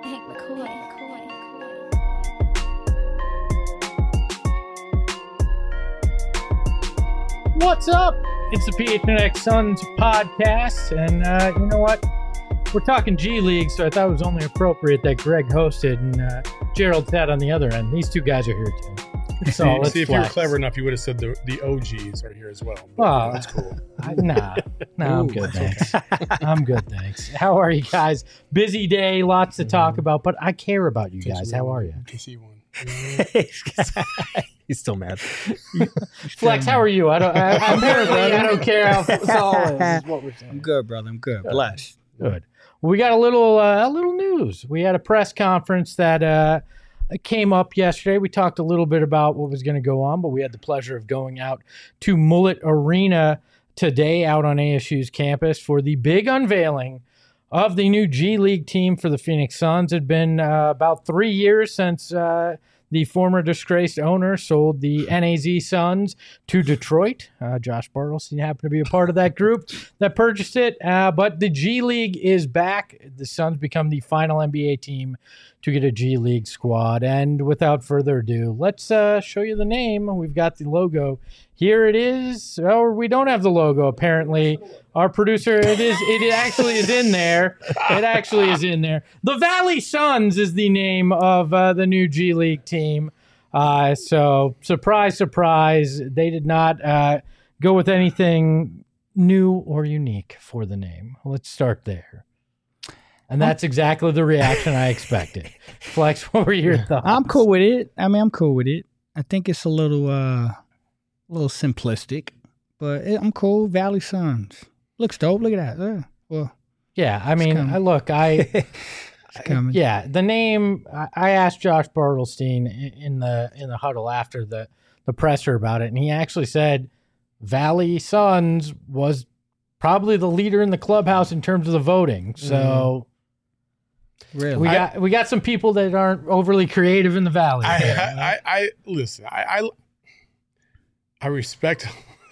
Hank McCoy. What's up? It's the PHNX Suns podcast, and you know what? We're talking G League, so I thought it was only appropriate that Greg hosted and Gerald sat on the other end. These two guys are here too. So see, if you were clever enough, you would have said the OGs are here as well. Well, that's cool. Nah, I'm good, thanks. I'm good, thanks. How are you guys? Busy day, lots to talk about, but I care about you guys. How are you? He's still mad. Flex, how are you? Apparently, I don't care how solid is what we're saying. I'm good, brother. I'm good. Blessed. Good. We got a little news. We had a press conference that came up yesterday. We talked a little bit about what was going to go on, but we had the pleasure of going out to Mullet Arena today out on ASU's campus for the big unveiling of the new G League team for the Phoenix Suns. It had been about 3 years since the former disgraced owner sold the NAZ Suns to Detroit. Josh Bartleson happened to be a part of that group that purchased it. But the G League is back. The Suns become the final NBA team to get a G League squad. And without further ado, let's show you the name. We've got the logo. Here it is. Or we don't have the logo, apparently. Our producer, it actually is in there. It actually is in there. The Valley Suns is the name of the new G League team. So surprise, surprise. They did not go with anything new or unique for the name. Let's start there. And that's exactly the reaction I expected. Flex, what were your thoughts? I'm cool with it. I'm cool with it. I think it's a little simplistic, but I'm cool. Valley Suns. Looks dope. Look at that. Yeah, I mean, yeah, the name. I asked Josh Bartlestein in the huddle after the presser about it, and he actually said Valley Suns was probably the leader in the clubhouse in terms of the voting. So. Really? We got some people that aren't overly creative in the Valley. I listen. I respect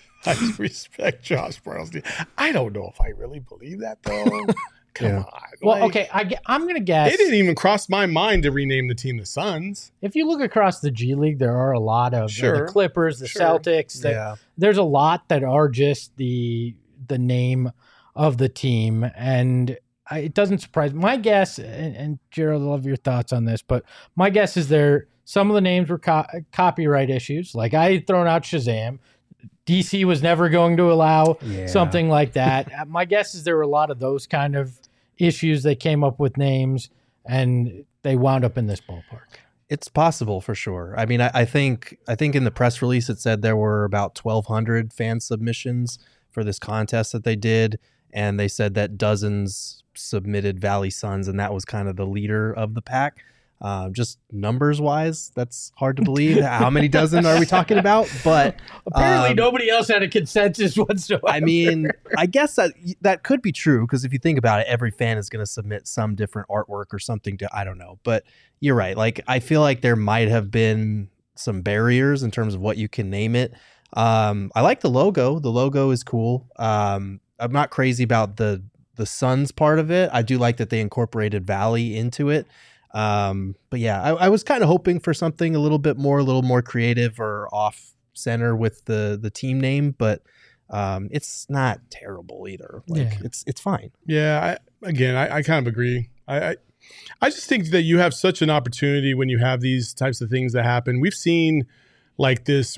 Josh Bartlestein. I don't know if I really believe that though. Come on. Well, okay. I'm gonna guess it didn't even cross my mind to rename the team the Suns. If you look across the G League, there are a lot of the Clippers, the Celtics. There's a lot that are just the name of the team, and it doesn't surprise me. My guess, and Gerald, I love your thoughts on this, but my guess is some of the names were copyright issues. Like I had thrown out Shazam. DC was never going to allow something like that. My guess is there were a lot of those kind of issues that came up with names, and they wound up in this ballpark. It's possible for sure. I mean, I think in the press release it said there were about 1,200 fan submissions for this contest that they did, and they said that dozens submitted Valley Suns, and that was kind of the leader of the pack. Just numbers wise, that's hard to believe. How many dozen are we talking about? But apparently nobody else had a consensus whatsoever. I mean, I guess that could be true, because if you think about it, every fan is going to submit some different artwork or something to, I don't know. But you're right. Like, I feel like there might have been some barriers in terms of what you can name it. I like the logo. The logo is cool. I'm not crazy about the Suns part of it. I do like that they incorporated Valley into it. But yeah, I was kind of hoping for something a little more creative or off center with the team name, but it's not terrible either. Like it's fine. Yeah. I kind of agree. I just think that you have such an opportunity when you have these types of things that happen. We've seen like this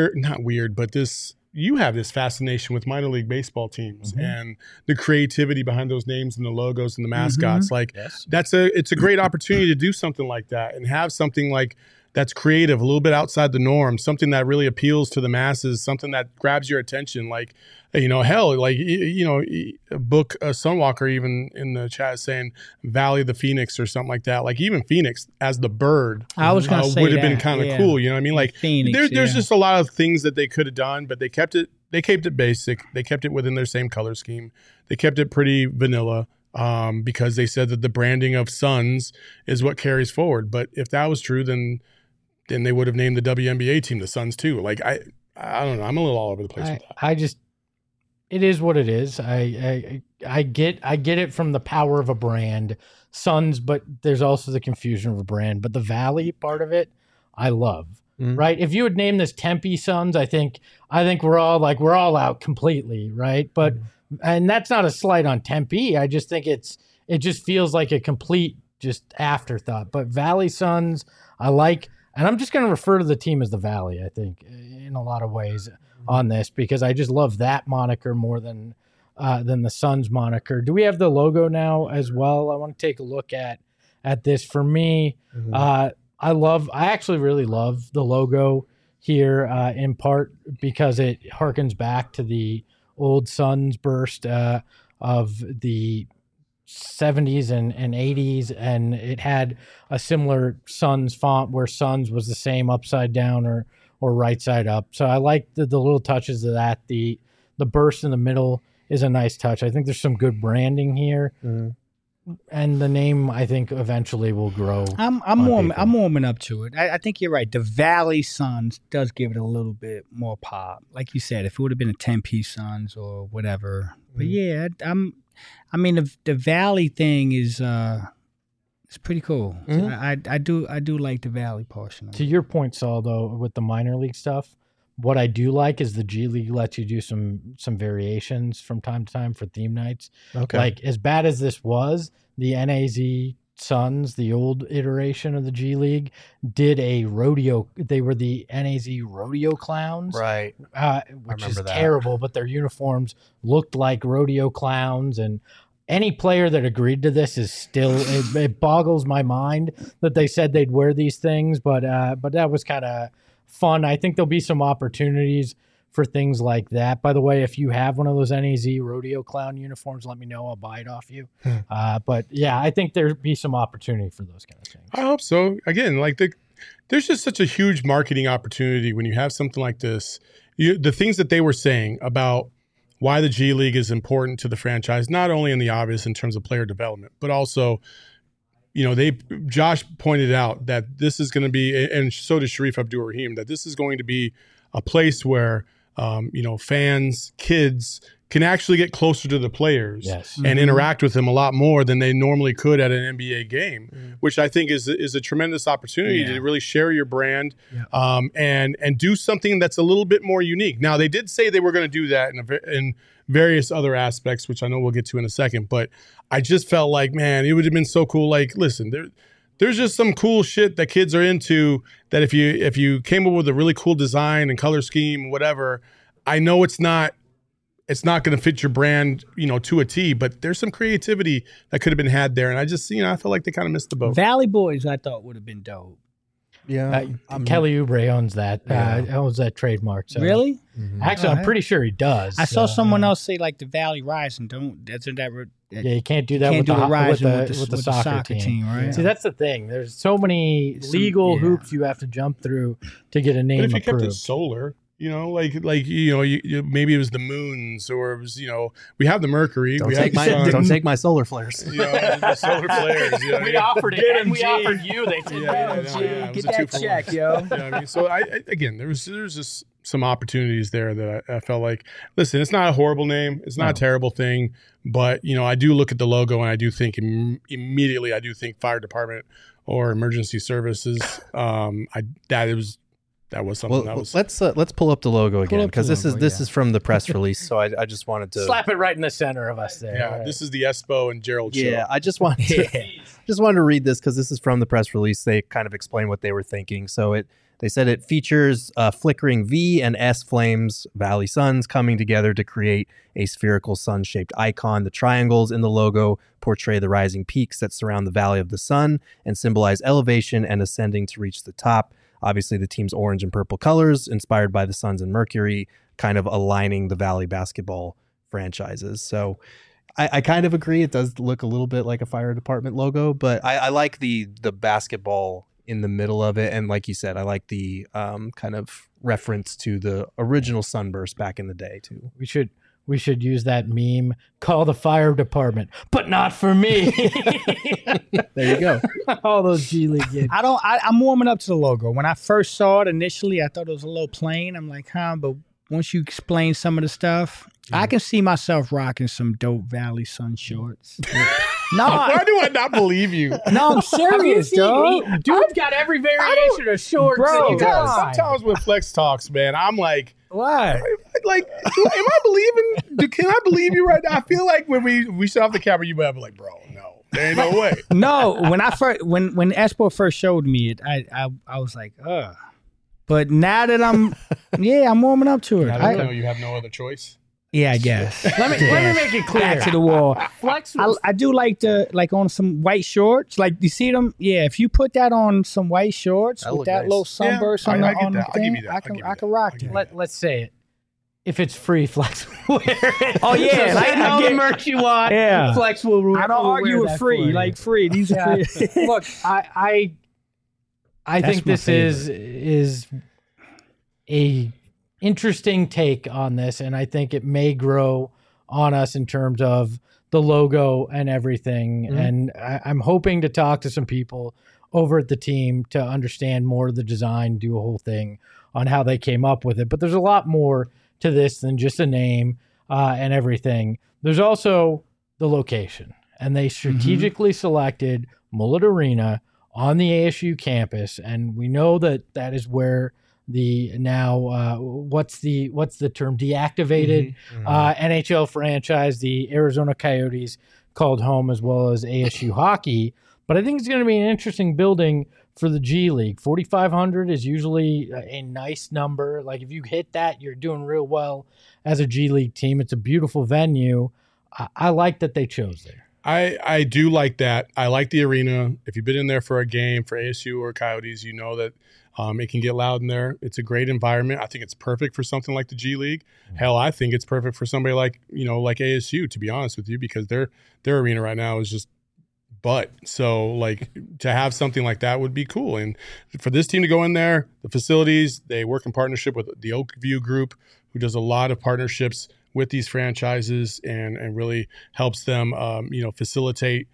you have this fascination with minor league baseball teams and the creativity behind those names and the logos and the mascots. It's a great opportunity to do something like that and have something like that's creative, a little bit outside the norm, something that really appeals to the masses, something that grabs your attention. Like, book Sunwalker even in the chat saying Valley of the Phoenix or something like that. Like even Phoenix as the bird I was gonna say would have been kind of cool. You know what I mean? Like Phoenix, there's just a lot of things that they could have done, but they kept it basic. They kept it within their same color scheme. They kept it pretty vanilla. Because they said that the branding of Suns is what carries forward. But if that was true, then they would have named the WNBA team the Suns too. Like I don't know. I'm a little all over the place with that. it is what it is. I get it from the power of a brand, Suns, but there's also the confusion of a brand. But the Valley part of it, I love. Right? If you would name this Tempe Suns, I think we're all out completely, right? But and that's not a slight on Tempe. I just think it just feels like a complete just afterthought. But Valley Suns, I like, and I'm just going to refer to the team as the Valley, I think, in a lot of ways on this, because I just love that moniker more than the Suns moniker. Do we have the logo now as well? I want to take a look at this. For me, I actually really love the logo here, in part because it harkens back to the old Suns burst of the 70s and 80s, and it had a similar Suns font where Suns was the same upside down or right side up. So I like the little touches of that. The burst in the middle is a nice touch. I think there's some good branding here. And the name, I think, eventually will grow. I'm warming up to it. I think you're right. The Valley Suns does give it a little bit more pop. Like you said, if it would have been a 10-piece Suns or whatever. But yeah, I mean, the Valley thing is it's pretty cool. So I do like the Valley portion of it. To your point, Saul, though, with the minor league stuff, what I do like is the G League lets you do some variations from time to time for theme nights. Okay. Like, as bad as this was, the NAZ Suns, the old iteration of the G League, did a rodeo. They were the NAZ Rodeo Clowns. Right. Which is terrible, but their uniforms looked like rodeo clowns. And any player that agreed to this is still, it boggles my mind that they said they'd wear these things. But that was kind of fun. I think there'll be some opportunities for things like that. By the way, if you have one of those NAZ rodeo clown uniforms, let me know. I'll buy it off you. But yeah, I think there'd be some opportunity for those kind of things. I hope so. Again, like there's just such a huge marketing opportunity when you have something like this. The things that they were saying about why the G League is important to the franchise, not only in the obvious in terms of player development, but also, Josh pointed out that this is going to be, and so did Sharif Abdur-Rahim, that this is going to be a place where, fans, kids can actually get closer to the players and interact with them a lot more than they normally could at an NBA game, which I think is a tremendous opportunity to really share your brand and do something that's a little bit more unique. Now, they did say they were going to do that in various other aspects, which I know we'll get to in a second, but I just felt like, man, it would have been so cool. Like, listen, there's just some cool shit that kids are into that if you came up with a really cool design and color scheme, whatever, I know it's not going to fit your brand, to a T, but there's some creativity that could have been had there. And I just, I felt like they kind of missed the boat. Valley Boys, I thought would have been dope. Yeah, Kelly Oubre owns that. Owns that trademark. So. Really? Actually, I'm pretty sure he does. I saw someone else say like the Valley Rising. You can't do that with the soccer team, right? See, that's the thing. There's so many legal hoops you have to jump through to get a name approved. But if you kept it solar, maybe it was the Moons, or it was, we have the Mercury. Don't take my solar flares. The solar flares. We offered it, and we offered you. They said, get that check, yo. So there's just some opportunities there that I felt like, listen, it's not a horrible name. It's not a terrible thing. But, I do look at the logo and I do think immediately, fire department or emergency services. That was something that was. Let's pull up the logo again, because this is from the press release. So I just wanted to slap it right in the center of us there. Yeah, right. This is the Espo and Gerald show. Yeah, I just wanted to read this because this is from the press release. They kind of explain what they were thinking. So they said it features flickering V and S flames, Valley Suns, coming together to create a spherical sun-shaped icon. The triangles in the logo portray the rising peaks that surround the Valley of the Sun and symbolize elevation and ascending to reach the top. Obviously, the team's orange and purple colors, inspired by the Suns and Mercury, kind of aligning the Valley basketball franchises. So I kind of agree. It does look a little bit like a fire department logo, but I like the basketball in the middle of it. And like you said, I like the kind of reference to the original Sunburst back in the day, too. We should use that meme, call the fire department, but not for me. There you go. All those G League games. I'm warming up to the logo. When I first saw it initially, I thought it was a little plain. I'm like, but once you explain some of the stuff, I can see myself rocking some dope Valley Sun shorts. No, why do I not believe you? No, I'm serious, dog. Dude's got every variation of shorts. Bro, that you got. Sometimes with Flex Talks, man, I'm like, What? like, am I believing? Can I believe you right now? I feel like when we shut off the camera, you might be like, bro, no, there ain't no way. No, when Espo first showed me it, I was like, ugh. But now that I'm warming up to it. I don't know. You have no other choice. Yeah, I guess. Let me make it clear. Back to the wall. Flex. I do like on some white shorts. Like, you see them? Yeah, if you put that on some white shorts That with look that nice. little sunburst on I get the that. I'll give thing, you that. I can rock that. Let's say it. If it's free, Flex will wear it. Oh, yeah, So like, send I all the get- merch you want. Yeah. Flex will. I don't will argue wear with that free. for you. Like, free. These are free. Look, I That's think my this is a interesting take on this, and I think it may grow on us in terms of the logo and everything. Mm-hmm. And I'm hoping to talk to some people over at the team to understand more of the design, do a whole thing on how they came up with it. But there's a lot more to this than just a name and everything. There's also the location, and they strategically selected Mullet Arena on the ASU campus, and we know that is where the now what's the term, deactivated NHL franchise, the Arizona Coyotes, called home, as well as ASU hockey. But I think it's going to be an interesting building for the G League. 4,500 is usually a nice number. Like, if you hit that, you're doing real well as a G League team. It's a beautiful venue. I like that they chose there. I do like that. I like the arena. If you've been in there for a game for ASU or Coyotes, you know that it can get loud in there. It's a great environment. I think it's perfect for something like the G League. Hell, I think it's perfect for somebody like ASU, to be honest with you, because their arena right now is just butt. So, like, to have something like that would be cool. And for this team to go in there, the facilities, they work in partnership with the Oakview Group, who does a lot of partnerships with these franchises and really helps them, facilitate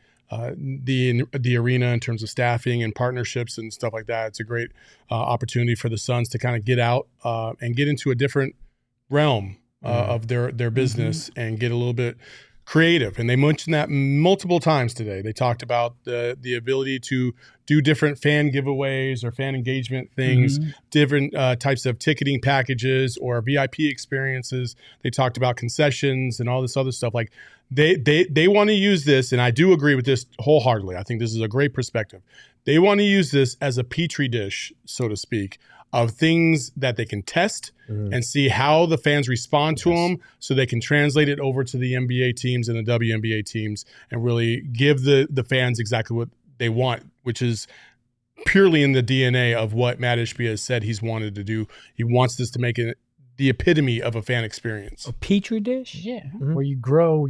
the arena in terms of staffing and partnerships and stuff like that. It's a great opportunity for the Suns to kind of get out and get into a different realm of their business and get a little bit creative. And they mentioned that multiple times today. They talked about the ability to do different fan giveaways or fan engagement things, different types of ticketing packages or VIP experiences. They talked about concessions and all this other stuff. Like, they want to use this, and I do agree with this wholeheartedly. I think this is a great perspective. They want to use this as a petri dish, so to speak, of things that they can test and see how the fans respond to them, so they can translate it over to the NBA teams and the WNBA teams and really give the fans exactly what they want, which is purely in the DNA of what Matt Ishbia has said he's wanted to do. He wants this to make it the epitome of a fan experience. A petri dish? Yeah, where you grow,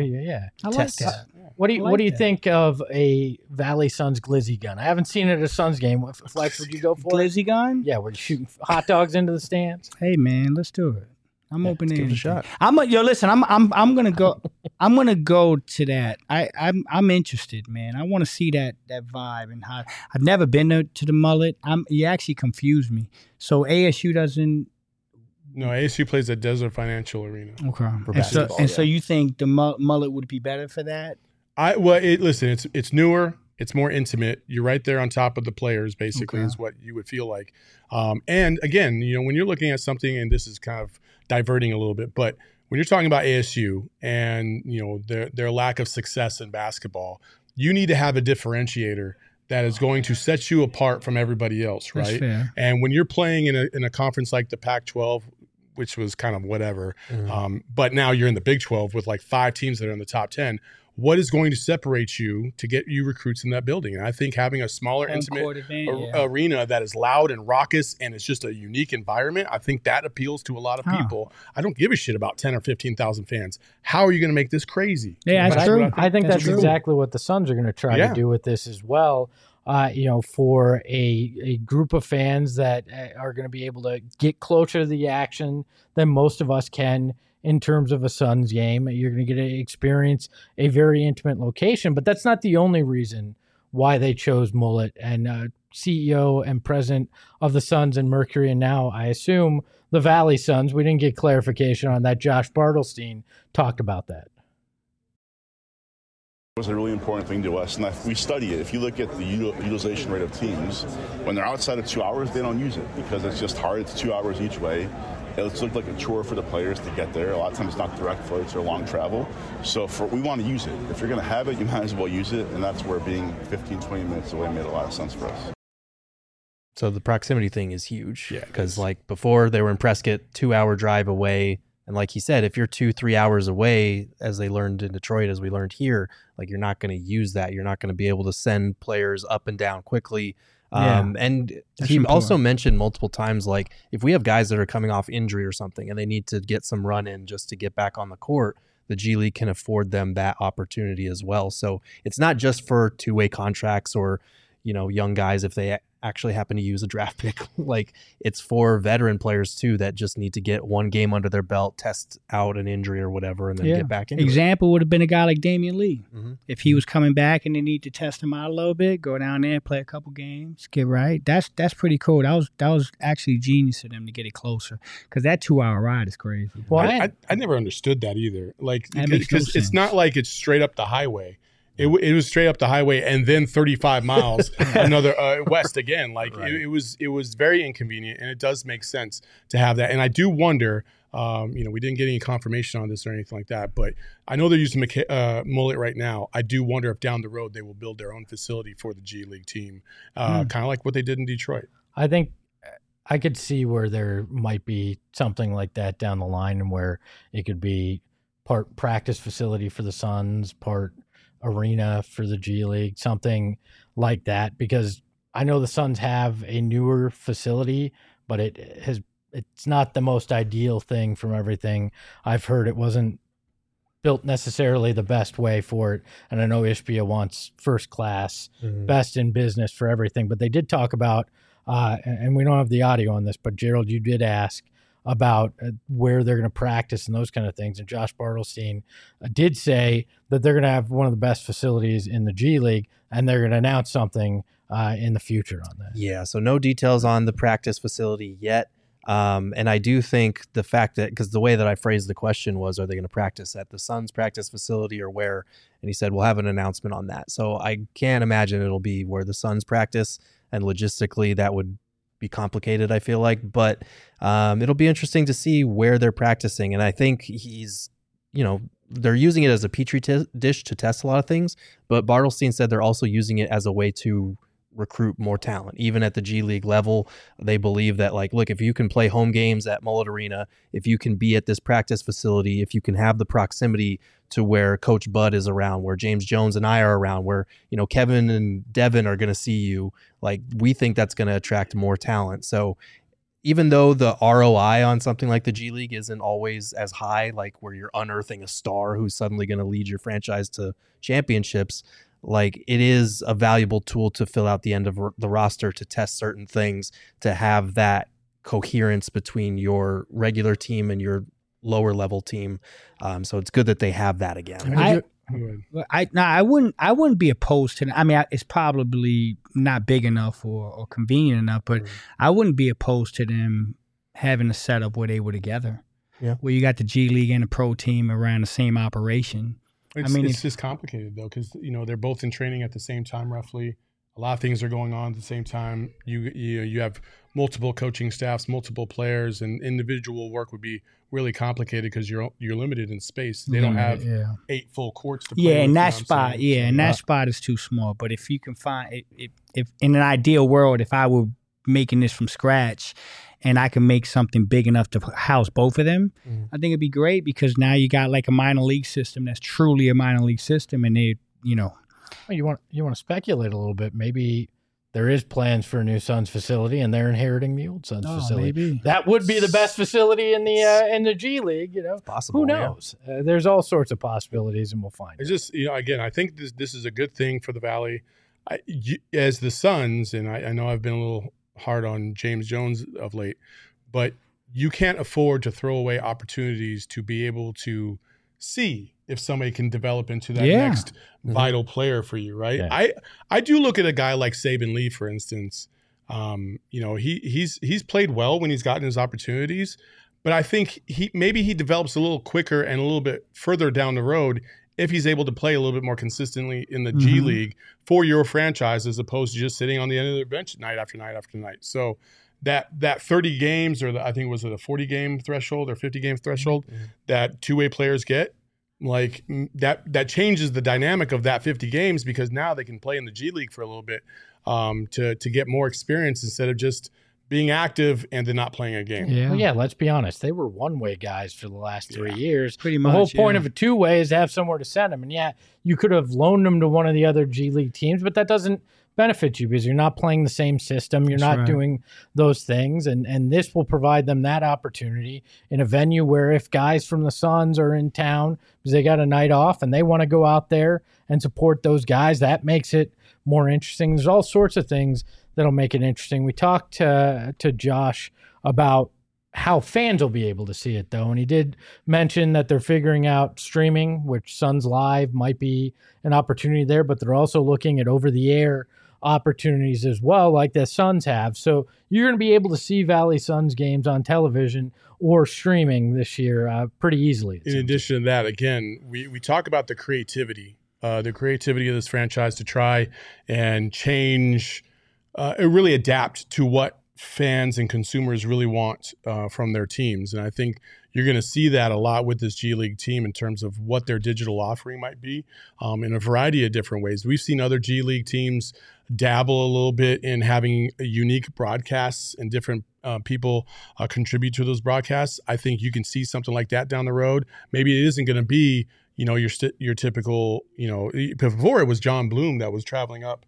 I like that. What do you think of a Valley Suns glizzy gun? I haven't seen it at a Suns game. Flex, would you go for it? Glizzy gun? Yeah, where you shooting hot dogs into the stands. Hey, man, let's do it. I'm open to give it a anything. shot. Listen. I'm gonna go. I'm gonna go to that. I'm interested, man. I want to see that vibe and how. I've never been to the Mullet. You actually confused me. So ASU doesn't. No, ASU plays at Desert Financial Arena. Okay. basketball, So you think the Mullet would be better for that? Listen, it's newer. It's more intimate. You're right there on top of the players, basically, is what you would feel like. And again, when you're looking at something, and this is kind of diverting a little bit, but when you're talking about ASU and their lack of success in basketball, you need to have a differentiator that is going to set you apart from everybody else, right? That's fair. And when you're playing in a conference like the Pac-12, which was kind of whatever, but now you're in the Big 12 with like 5 teams that are in the top 10. What is going to separate you to get you recruits in that building? And I think having a smaller, intimate arena that is loud and raucous and it's just a unique environment, I think that appeals to a lot of people. I don't give a shit about 10 or 15,000 fans. How are you going to make this crazy? Yeah, that's true. I think that's true. exactly what the Suns are going to try to do with this as well. For a group of fans that are going to be able to get closer to the action than most of us can in terms of a Suns game. You're going to get to experience a very intimate location, but that's not the only reason why they chose Mullet. And CEO and president of the Suns and Mercury, and now I assume the Valley Suns. We didn't get clarification on that. Josh Bartelstein talked about that. It was a really important thing to us, and we study it. If you look at the utilization rate of teams, when they're outside of 2 hours, they don't use it because it's just hard. It's 2 hours each way. It's looked like a chore for the players to get there. A lot of times it's not direct flights or long travel. So we want to use it. If you're going to have it, you might as well use it, and that's where being 15, 20 minutes away made a lot of sense for us. So the proximity thing is huge because like before they were in Prescott, 2 hour drive away. And like he said, if you're 2-3 hours away, as they learned in Detroit, as we learned here, like you're not going to use that. You're not going to be able to send players up and down quickly. And he also mentioned multiple times, like if we have guys that are coming off injury or something and they need to get some run in just to get back on the court, the G League can afford them that opportunity as well. So it's not just for two-way contracts or, young guys if they actually happen to use a draft pick. Like it's for veteran players too that just need to get one game under their belt, test out an injury or whatever, and then get back into Example would have been a guy like Damian Lee. Mm-hmm. If he was coming back and they need to test him out a little bit, go down there, play a couple games, get right. That's pretty cool. That was actually genius of them to get it closer because that 2 hour ride is crazy. Well, I never understood that either. Like because it's not like it's straight up the highway. It was straight up the highway and then 35 miles another west again. Like it was very inconvenient, and it does make sense to have that. And I do wonder, we didn't get any confirmation on this or anything like that, but I know they're using Mullet right now. I do wonder if down the road they will build their own facility for the G League team, kind of like what they did in Detroit. I think I could see where there might be something like that down the line, and where it could be part practice facility for the Suns, part arena for the G League, something like that, because I know the Suns have a newer facility, but it's not the most ideal thing from everything I've heard. It wasn't built necessarily the best way for it, and I know Ishbia wants first class, best in business for everything, but they did talk about, and we don't have the audio on this, but Gerald, you did ask about where they're going to practice and those kind of things. And Josh Bartelstein did say that they're going to have one of the best facilities in the G League, and they're going to announce something in the future on that. Yeah, so no details on the practice facility yet. And I do think the fact that, because the way that I phrased the question was, are they going to practice at the Suns practice facility or where? And he said, we'll have an announcement on that. So I can't imagine it'll be where the Suns practice, and logistically that would be complicated, I feel like, but it'll be interesting to see where they're practicing. And I think they're using it as a petri dish to test a lot of things, but Bartelstein said they're also using it as a way to recruit more talent. Even at the G League level, they believe that, like, look, if you can play home games at Mullet Arena, if you can be at this practice facility, if you can have the proximity to where Coach Bud is around, where James Jones and I are around, where, Kevin and Devin are going to see you, like, we think that's going to attract more talent. So even though the ROI on something like the G League isn't always as high, like where you're unearthing a star who's suddenly going to lead your franchise to championships, like, it is a valuable tool to fill out the end of the roster, to test certain things, to have that coherence between your regular team and your lower level team. So it's good that they have that again. I wouldn't be opposed to it. I mean, it's probably not big enough or convenient enough, but I wouldn't be opposed to them having a setup where they were together. Yeah, where you got the G League and the pro team around the same operation. It's just complicated though, because they're both in training at the same time roughly. A lot of things are going on at the same time. You have multiple coaching staffs, multiple players, and individual work would be really complicated because you're limited in space. They don't have 8 full courts to play. Yeah, and that spot, that spot is too small. But if you can find, if in an ideal world, if I were making this from scratch, and I can make something big enough to house both of them, I think it'd be great, because now you got like a minor league system that's truly a minor league system, and they, Well, you want to speculate a little bit. Maybe there is plans for a new Suns facility, and they're inheriting the old Suns facility. Maybe. That would be the best facility in the G League. Possible. Who knows? Yeah. There's all sorts of possibilities, and we'll find. It's just again, I think this is a good thing for the Valley. As the Suns, and I know I've been a little hard on James Jones of late, but you can't afford to throw away opportunities to be able to see if somebody can develop into that next vital player for you, right? Yeah. I do look at a guy like Saban Lee, for instance. He's played well when he's gotten his opportunities, but I think he develops a little quicker and a little bit further down the road if he's able to play a little bit more consistently in the G League for your franchise, as opposed to just sitting on the end of the bench night after night after night. So that 30 games, or I think was it a 40 game threshold or 50 game threshold that two-way players get, like that changes the dynamic of that 50 games, because now they can play in the G League for a little bit to get more experience instead of just being active and then not playing a game. Yeah. Well, yeah, let's be honest. They were one-way guys for the last 3 years. Pretty much. The whole point of a two-way is to have somewhere to send them. And yeah, you could have loaned them to one of the other G League teams, but that doesn't benefit you because you're not playing the same system. You're not doing those things. And this will provide them that opportunity in a venue where if guys from the Suns are in town because they got a night off and they want to go out there and support those guys, that makes it more interesting. There's all sorts of things that'll make it interesting. We talked to Josh about how fans will be able to see it, though, and he did mention that they're figuring out streaming, which Suns Live might be an opportunity there, but they're also looking at over-the-air opportunities as well, like the Suns have. So you're going to be able to see Valley Suns games on television or streaming this year pretty easily. In addition to that, again, we talk about the creativity of this franchise to try and change, really adapt to what fans and consumers really want from their teams. And I think you're going to see that a lot with this G League team in terms of what their digital offering might be in a variety of different ways. We've seen other G League teams dabble a little bit in having unique broadcasts and different people contribute to those broadcasts. I think you can see something like that down the road. Maybe it isn't going to be your typical, before it was John Bloom that was traveling up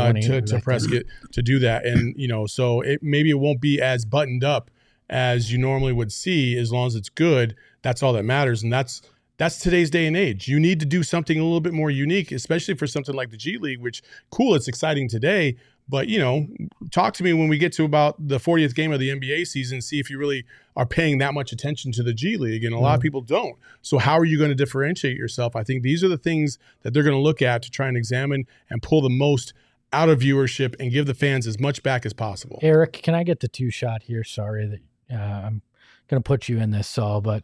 to Prescott to do that. And, so maybe it won't be as buttoned up as you normally would see. As long as it's good, that's all that matters. And that's today's day and age. You need to do something a little bit more unique, especially for something like the G League, which cool, it's exciting today. But, talk to me when we get to about the 40th game of the NBA season, see if you really are paying that much attention to the G League. And a lot of people don't. So how are you going to differentiate yourself? I think these are the things that they're going to look at to try and examine and pull the most out of viewership and give the fans as much back as possible. Eric, can I get the two-shot here? Sorry that I'm going to put you in this, Saul, but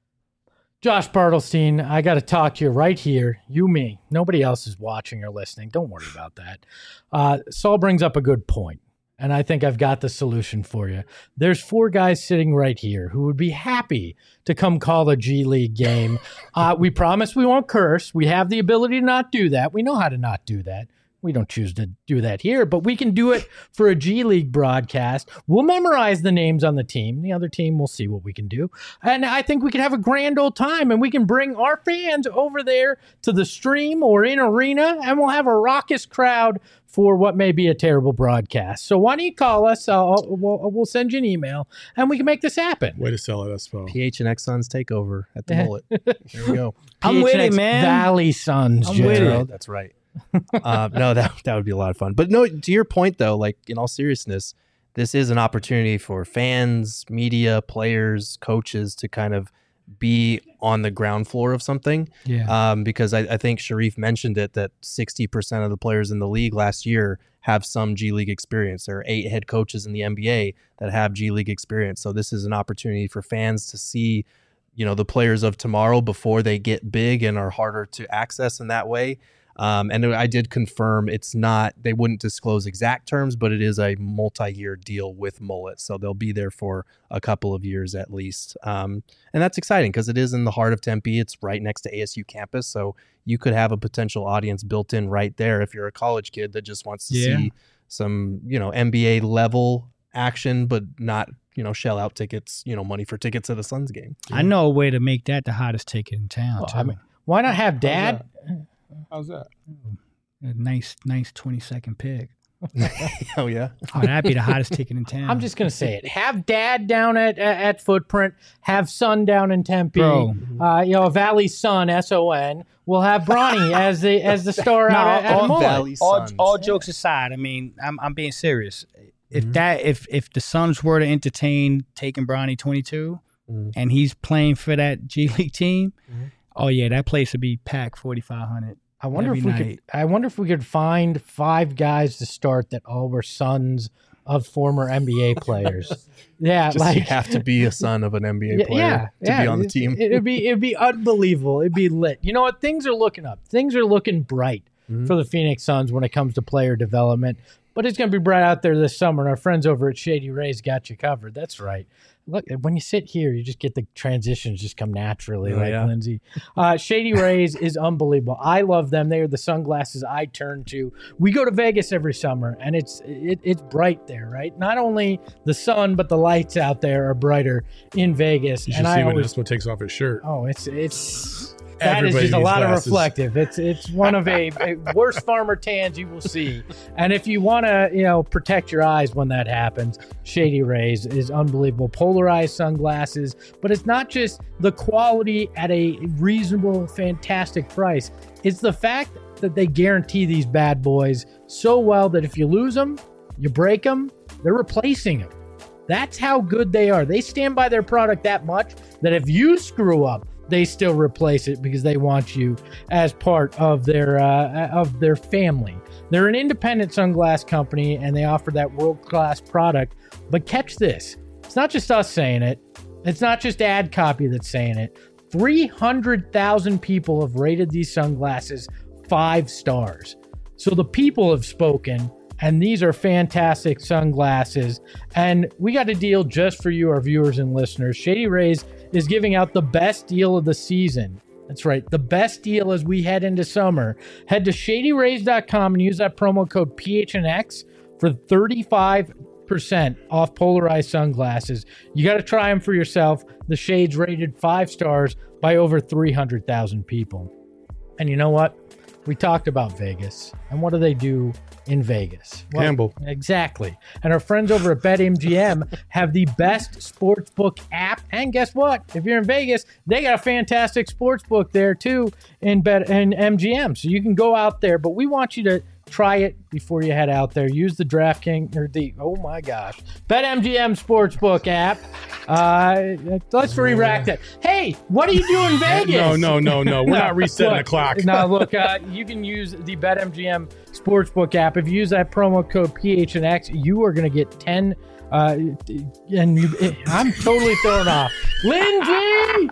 Josh Bartelstein, I got to talk to you right here. You, me. Nobody else is watching or listening. Don't worry about that. Saul brings up a good point, and I think I've got the solution for you. There's 4 guys sitting right here who would be happy to come call a G League game. We promise we won't curse. We have the ability to not do that. We know how to not do that. We don't choose to do that here, but we can do it for a G League broadcast. We'll memorize the names on the team. The other team, we'll see what we can do. And I think we can have a grand old time, and we can bring our fans over there to the stream or in arena, and we'll have a raucous crowd for what may be a terrible broadcast. So why don't you call us? We'll send you an email, and we can make this happen. Way to sell it, Espo. PHNX Suns takeover at the Mullet. There we go. I'm with it, man. Valley Suns, I'm with it. That's right. No, that would be a lot of fun. But no, to your point though, like in all seriousness, this is an opportunity for fans, media, players, coaches to kind of be on the ground floor of something. Yeah. Because I think Sharif mentioned it, that 60% of the players in the league last year have some G League experience. There are 8 head coaches in the NBA that have G League experience. So this is an opportunity for fans to see, the players of tomorrow before they get big and are harder to access in that way. And I did confirm they wouldn't disclose exact terms, but it is a multi-year deal with Mullet. So they'll be there for a couple of years at least. And that's exciting because it is in the heart of Tempe. It's right next to ASU campus. So you could have a potential audience built in right there if you're a college kid that just wants to see some, NBA level action, but not, shell out tickets, money for tickets at a Suns game. I know a way to make that the hottest ticket in town. Why not have Dad? How's that? A nice 20-second pick. Oh, yeah. Oh, that'd be the hottest ticket in town. I'm just going to say it. Have Dad down at Footprint. Have Son down in Tempe. Bro. Valley Sun, S-O-N. We'll have Bronny as the star out at Mullet. Valley Suns. All jokes aside, I mean, I'm being serious. If the Suns were to entertain taking Bronny 22 and he's playing for that G League team, oh yeah, that place would be packed 4,500. I wonder if we could find 5 guys to start that all were sons of former NBA players. Yeah, Just you have to be a son of an NBA player to be on the team. It'd be unbelievable. It'd be lit. You know what? Things are looking up. Things are looking bright for the Phoenix Suns when it comes to player development. But it's going to be bright out there this summer, and our friends over at Shady Rays got you covered. That's right. Look, when you sit here, you just get the transitions just come naturally, Lindsay. Shady Rays is unbelievable. I love them. They are the sunglasses I turn to. We go to Vegas every summer, and it's bright there, right? Not only the sun, but the lights out there are brighter in Vegas. You should see when Espo takes off his shirt. Oh, that is just a lot of reflective. It's one of a worst farmer tans you will see. And if you want to, protect your eyes when that happens, Shady Rays is unbelievable. Polarized sunglasses, but it's not just the quality at a reasonable, fantastic price. It's the fact that they guarantee these bad boys so well that if you lose them, you break them, they're replacing them. That's how good they are. They stand by their product that much that if you screw up, they still replace it because they want you as part of their family. They're an independent sunglass company, and they offer that world-class product. But catch this. It's not just us saying it. It's not just ad copy that's saying it. 300,000 people have rated these sunglasses 5 stars. So the people have spoken, and these are fantastic sunglasses. And we got a deal just for you, our viewers and listeners. Shady Rays is giving out the best deal of the season. That's right, the best deal as we head into summer. Head to shadyrays.com and use that promo code PHNX for 35% off polarized sunglasses. You got to try them for yourself. The shades rated 5 stars by over 300,000 people. And you know what? We talked about Vegas. And what do they do in Vegas? Well, gamble. Exactly. And our friends over at BetMGM have the best sportsbook app. And guess what? If you're in Vegas, they got a fantastic sportsbook there too in MGM. So you can go out there, but we want you to try it before you head out there. Use the DraftKings or BetMGM Sportsbook app. Let's re-rack that. Hey, what are you doing in Vegas? No. We're not resetting the clock. Now, look, you can use the BetMGM Sportsbook app. If you use that promo code PHNX, you are going to get 10. I'm totally thrown off. Lindsay!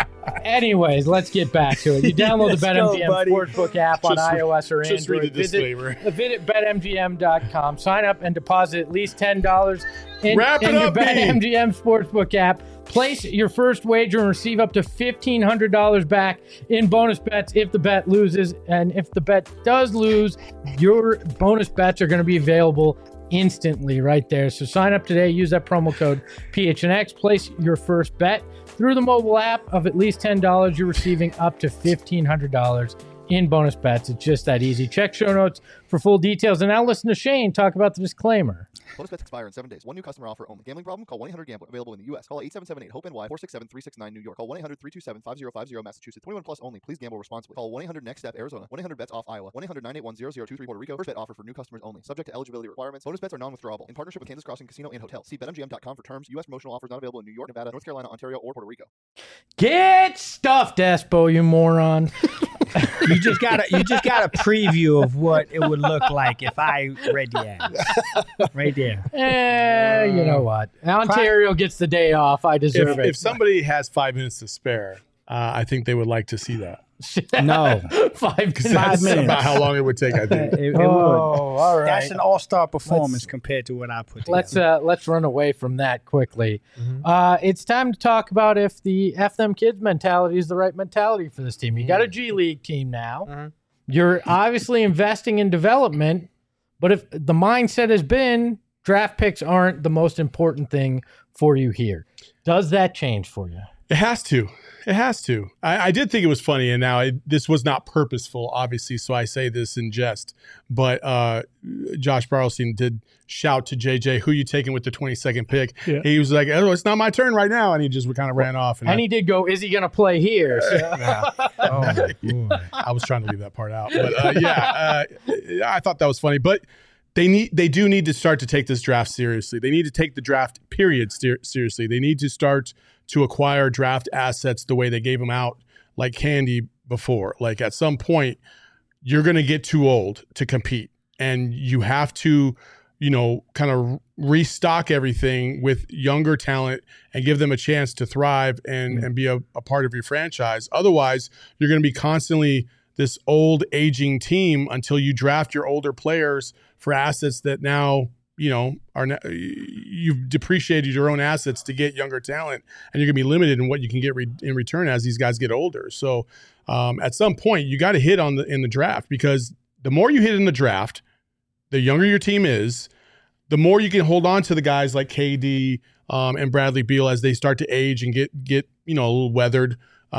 Anyways, let's get back to it. You download the BetMGM Sportsbook app on iOS or Android. Just read the disclaimer. Visit BetMGM.com. Sign up and deposit at least $10 in your BetMGM Sportsbook app. Place your first wager and receive up to $1,500 back in bonus bets if the bet loses. And if the bet does lose, your bonus bets are going to be available instantly right there. So sign up today. Use that promo code PHNX. Place your first bet through the mobile app of at least $10. You're receiving up to $1,500 in bonus bets. It's just that easy. Check show notes for full details. And now listen to Shane talk about the disclaimer. Bonus bets expire in 7 days. One new customer offer only. Gambling problem? Call 1-800-GAMBLER. Available in the U.S. Call 877-8-HOPE-NY 467-369 New York. Call 1-800-327-5050 Massachusetts. 21 plus only. Please gamble responsibly. Call 1-800-NEXT-STEP Arizona. 1-800-BETS-OFF Iowa. 1-800-981-0023 Puerto Rico. First bet offer for new customers only. Subject to eligibility requirements. Bonus bets are non-withdrawable. In partnership with Kansas Crossing Casino and Hotel. See BetMGM.com for terms. U.S. promotional offers not available in New York, Nevada, North Carolina, Ontario, or Puerto Rico. Get stuffed, Espo, you moron. You just got a preview of what it would look like if I read the ads. Right there. You know what? Ontario gets the day off. I deserve it. If somebody has 5 minutes to spare, I think they would like to see that. No. 5 minutes. That's about how long it would take, I think. It would. All right. That's an all-star performance compared to what I put together. Let's run away from that quickly. It's time to talk about if the F them kids mentality is the right mentality for this team. You got a G League team now. You're obviously investing in development, but if the mindset has been draft picks aren't the most important thing for you here, does that change for you? It has to. It has to. I did think it was funny, and now this was not purposeful, obviously, so I say this in jest. But Josh Barlstein did shout to JJ, who you taking with the 22nd pick? Yeah. He was like, oh, it's not my turn right now, and he just kind of ran off. And he did go, is he going to play here? I was trying to leave that part out. But, I thought that was funny. But they do need to start to take this draft seriously. They need to take the draft period seriously. They need to start to acquire draft assets the way they gave them out like candy before. Like at some point, you're going to get too old to compete, and you have to, kind of restock everything with younger talent and give them a chance to thrive and be a part of your franchise. Otherwise, you're going to be constantly this old aging team until you draft your older players for assets that now, you've depreciated your own assets to get younger talent, and you're going to be limited in what you can get in return as these guys get older. So at some point, you got to hit in the draft, because the more you hit in the draft, the younger your team is, the more you can hold on to the guys like KD and Bradley Beal as they start to age and get a little weathered.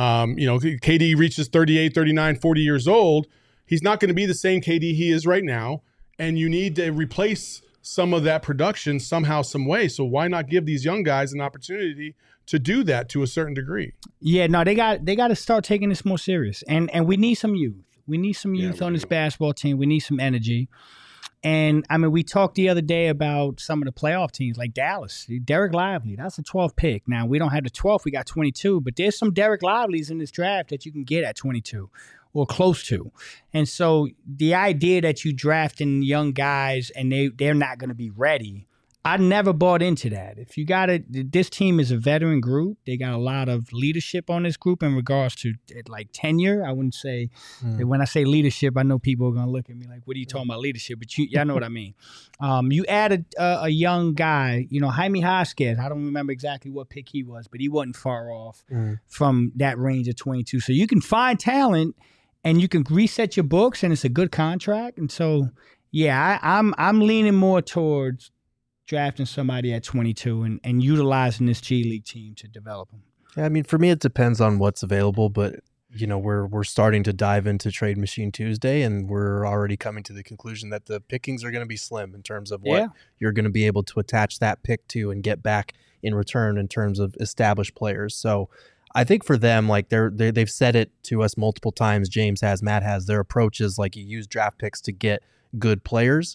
KD reaches 38, 39, 40 years old. He's not going to be the same KD he is right now, and you need to replace some of that production somehow, some way. So why not give these young guys an opportunity to do that to a certain degree? Yeah, no, they got to start taking this more serious, and we need some youth. We need some youth on this basketball team. We need some energy. And, I mean, we talked the other day about some of the playoff teams like Dallas. Derek Lively, that's a 12th pick. Now, we don't have the 12th. We got 22. But there's some Derek Lively's in this draft that you can get at 22 or close to. And so the idea that you drafting young guys and they're not going to be ready, I never bought into that. If you got it, this team is a veteran group. They got a lot of leadership on this group in regards to like tenure. I wouldn't say when I say leadership, I know people are gonna look at me like, "What are you talking about leadership?" But y'all know what I mean. You added a young guy, Jaime Jaquez. I don't remember exactly what pick he was, but he wasn't far off from that range of 22. So you can find talent, and you can reset your books, and it's a good contract. And so, yeah, I'm leaning more towards drafting somebody at 22 and utilizing this G League team to develop them. Yeah, I mean, for me, it depends on what's available, but we're starting to dive into Trade Machine Tuesday, and we're already coming to the conclusion that the pickings are going to be slim in terms of what you're going to be able to attach that pick to and get back in return in terms of established players. So I think for them, like they've said it to us multiple times. James has, Matt has. Their approach is like you use draft picks to get good players.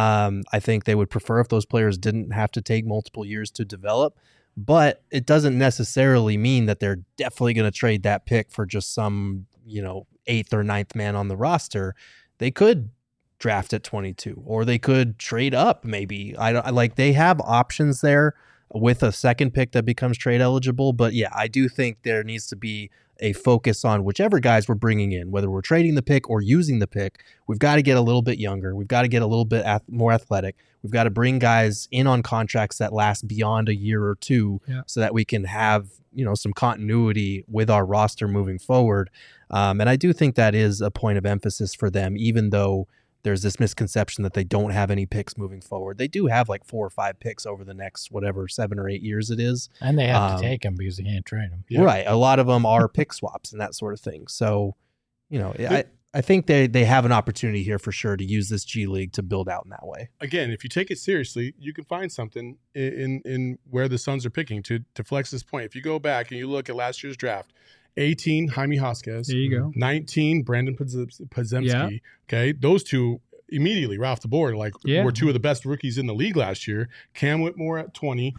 I think they would prefer if those players didn't have to take multiple years to develop, but it doesn't necessarily mean that they're definitely going to trade that pick for just some, 8th or 9th man on the roster. They could draft at 22, or they could trade up. Maybe they have options there with a second pick that becomes trade eligible. But yeah, I do think there needs to be a focus on whichever guys we're bringing in, whether we're trading the pick or using the pick. We've got to get a little bit younger. We've got to get a little bit more athletic. We've got to bring guys in on contracts that last beyond a year or two, so that we can have, some continuity with our roster moving forward. And I do think that is a point of emphasis for them, even though there's this misconception that they don't have any picks moving forward. They do have like 4 or 5 picks over the next 7 or 8 years it is. And they have to take them because they can't trade them. Yeah. Right. A lot of them are pick swaps and that sort of thing. So, I think they have an opportunity here for sure to use this G League to build out in that way. Again, if you take it seriously, you can find something in where the Suns are picking to flex this point. If you go back and you look at last year's draft, 18, Jaime Jaquez. There you go. 19, Brandon Podziemski. Yeah. Okay, those two immediately right off the board, were 2 of the best rookies in the league last year. Cam Whitmore at 20,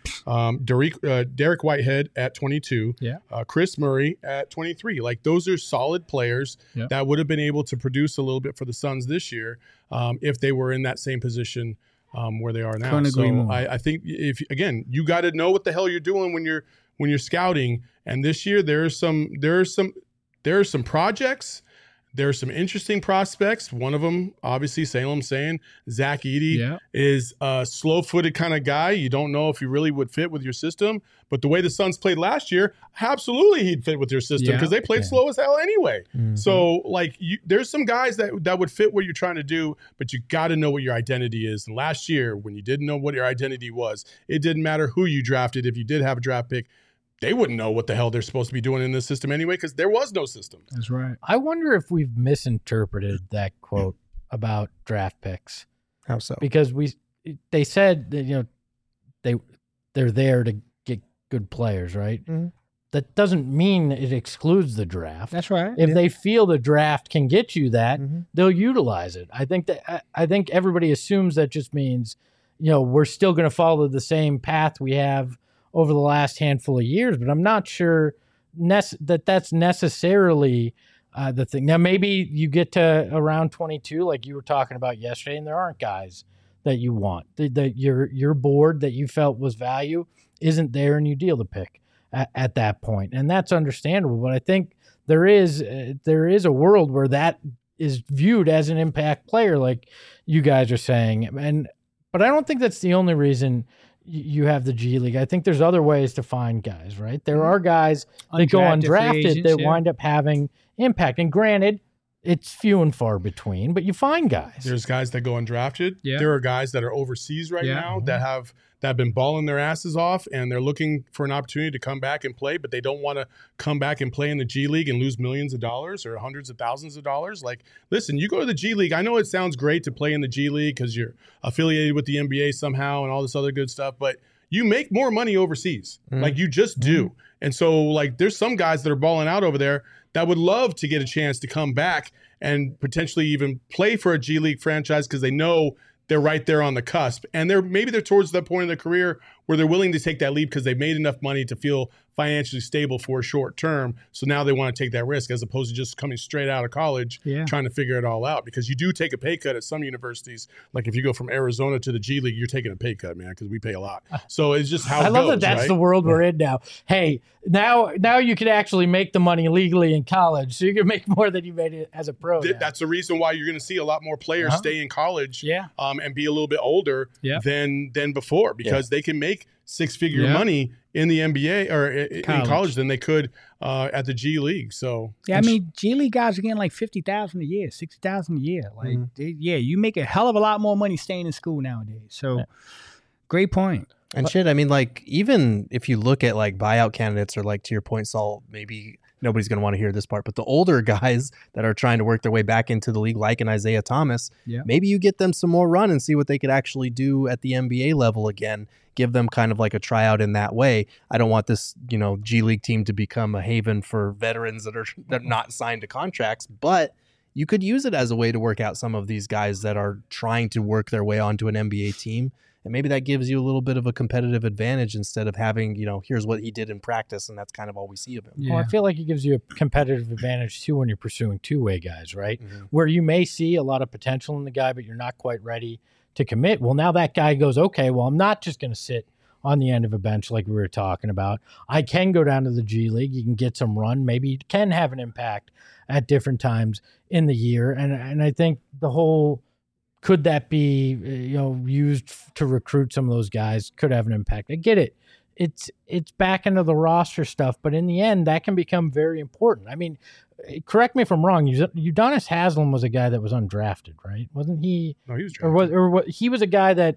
Derek Whitehead at 22, Chris Murray at 23. Like, those are solid players that would have been able to produce a little bit for the Suns this year if they were in that same position where they are now. Couldn't agree more. I think you got to know what the hell you're doing when you're scouting. And this year there are some projects. There are some interesting prospects. One of them, obviously, Salem saying Zach Edey is a slow-footed kind of guy. You don't know if he really would fit with your system. But the way the Suns played last year, absolutely he'd fit with your system because they played slow as hell anyway. Mm-hmm. So, there's some guys that would fit what you're trying to do, but you got to know what your identity is. And last year, when you didn't know what your identity was, it didn't matter who you drafted. If you did have a draft pick, they wouldn't know what the hell they're supposed to be doing in this system anyway, because there was no system. That's right. I wonder if we've misinterpreted that quote about draft picks. How so? Because they said that, they're there to get good players, right? Mm-hmm. That doesn't mean it excludes the draft. That's right. If they feel the draft can get you that, they'll utilize it. I think everybody assumes that just means, we're still going to follow the same path we have over the last handful of years, but I'm not sure that's necessarily the thing. Now, maybe you get to around 22, like you were talking about yesterday, and there aren't guys that you want. That your board that you felt was value isn't there, and you deal the pick at that point, and that's understandable. But I think there is a world where that is viewed as an impact player, like you guys are saying, but I don't think that's the only reason you have the G League. I think there's other ways to find guys, right? There are guys that go undrafted that wind up having impact, and granted, it's few and far between, but you find guys. There's guys that go undrafted. Yeah. There are guys that are overseas right now that have been balling their asses off, and they're looking for an opportunity to come back and play, but they don't want to come back and play in the G League and lose millions of dollars or hundreds of thousands of dollars. Like, listen, you go to the G League. I know it sounds great to play in the G League because you're affiliated with the NBA somehow and all this other good stuff, but you make more money overseas. Like, you just do. And so, like, there's some guys that are balling out over there that would love to get a chance to come back and potentially even play for a G League franchise because they know they're right there on the cusp. And maybe they're towards that point in their career where they're willing to take that leap because they've made enough money to feel financially stable for a short term. So now they want to take that risk as opposed to just coming straight out of college trying to figure it all out. Because you do take a pay cut at some universities. Like if you go from Arizona to the G League, you're taking a pay cut, man, because we pay a lot. So it's just how it goes. I love that that's right? the world we're in now. Hey, now you can actually make the money legally in college. So you can make more than you made it as a pro. That's the reason why you're going to see a lot more players stay in college and be a little bit older than before because they can make six-figure money in the NBA or in college than they could at the G League. So I mean, G League guys are getting like $50,000 a year, $60,000 a year. Like, you make a hell of a lot more money staying in school nowadays. So, great point. And shit, I mean, like, even if you look at like buyout candidates or like to your point, Saul, maybe nobody's going to want to hear this part, but the older guys that are trying to work their way back into the league, like an Isaiah Thomas, maybe you get them some more run and see what they could actually do at the NBA level again. Give them kind of like a tryout in that way. I don't want this, G League team to become a haven for veterans that are not signed to contracts, but you could use it as a way to work out some of these guys that are trying to work their way onto an NBA team. And maybe that gives you a little bit of a competitive advantage instead of having, here's what he did in practice, and that's kind of all we see of him. Well, I feel like it gives you a competitive advantage, too, when you're pursuing two-way guys, right? Where you may see a lot of potential in the guy, but you're not quite ready to commit. Well, now that guy goes, okay, well, I'm not just going to sit on the end of a bench like we were talking about. I can go down to the G League. You can get some run. Maybe you can have an impact at different times in the year. And I think the whole... could that be, used to recruit some of those guys? Could have an impact. I get it. It's back into the roster stuff, but in the end, that can become very important. I mean, correct me if I'm wrong. Udonis Haslem was a guy that was undrafted, right? Wasn't he? No, he was drafted. He was a guy that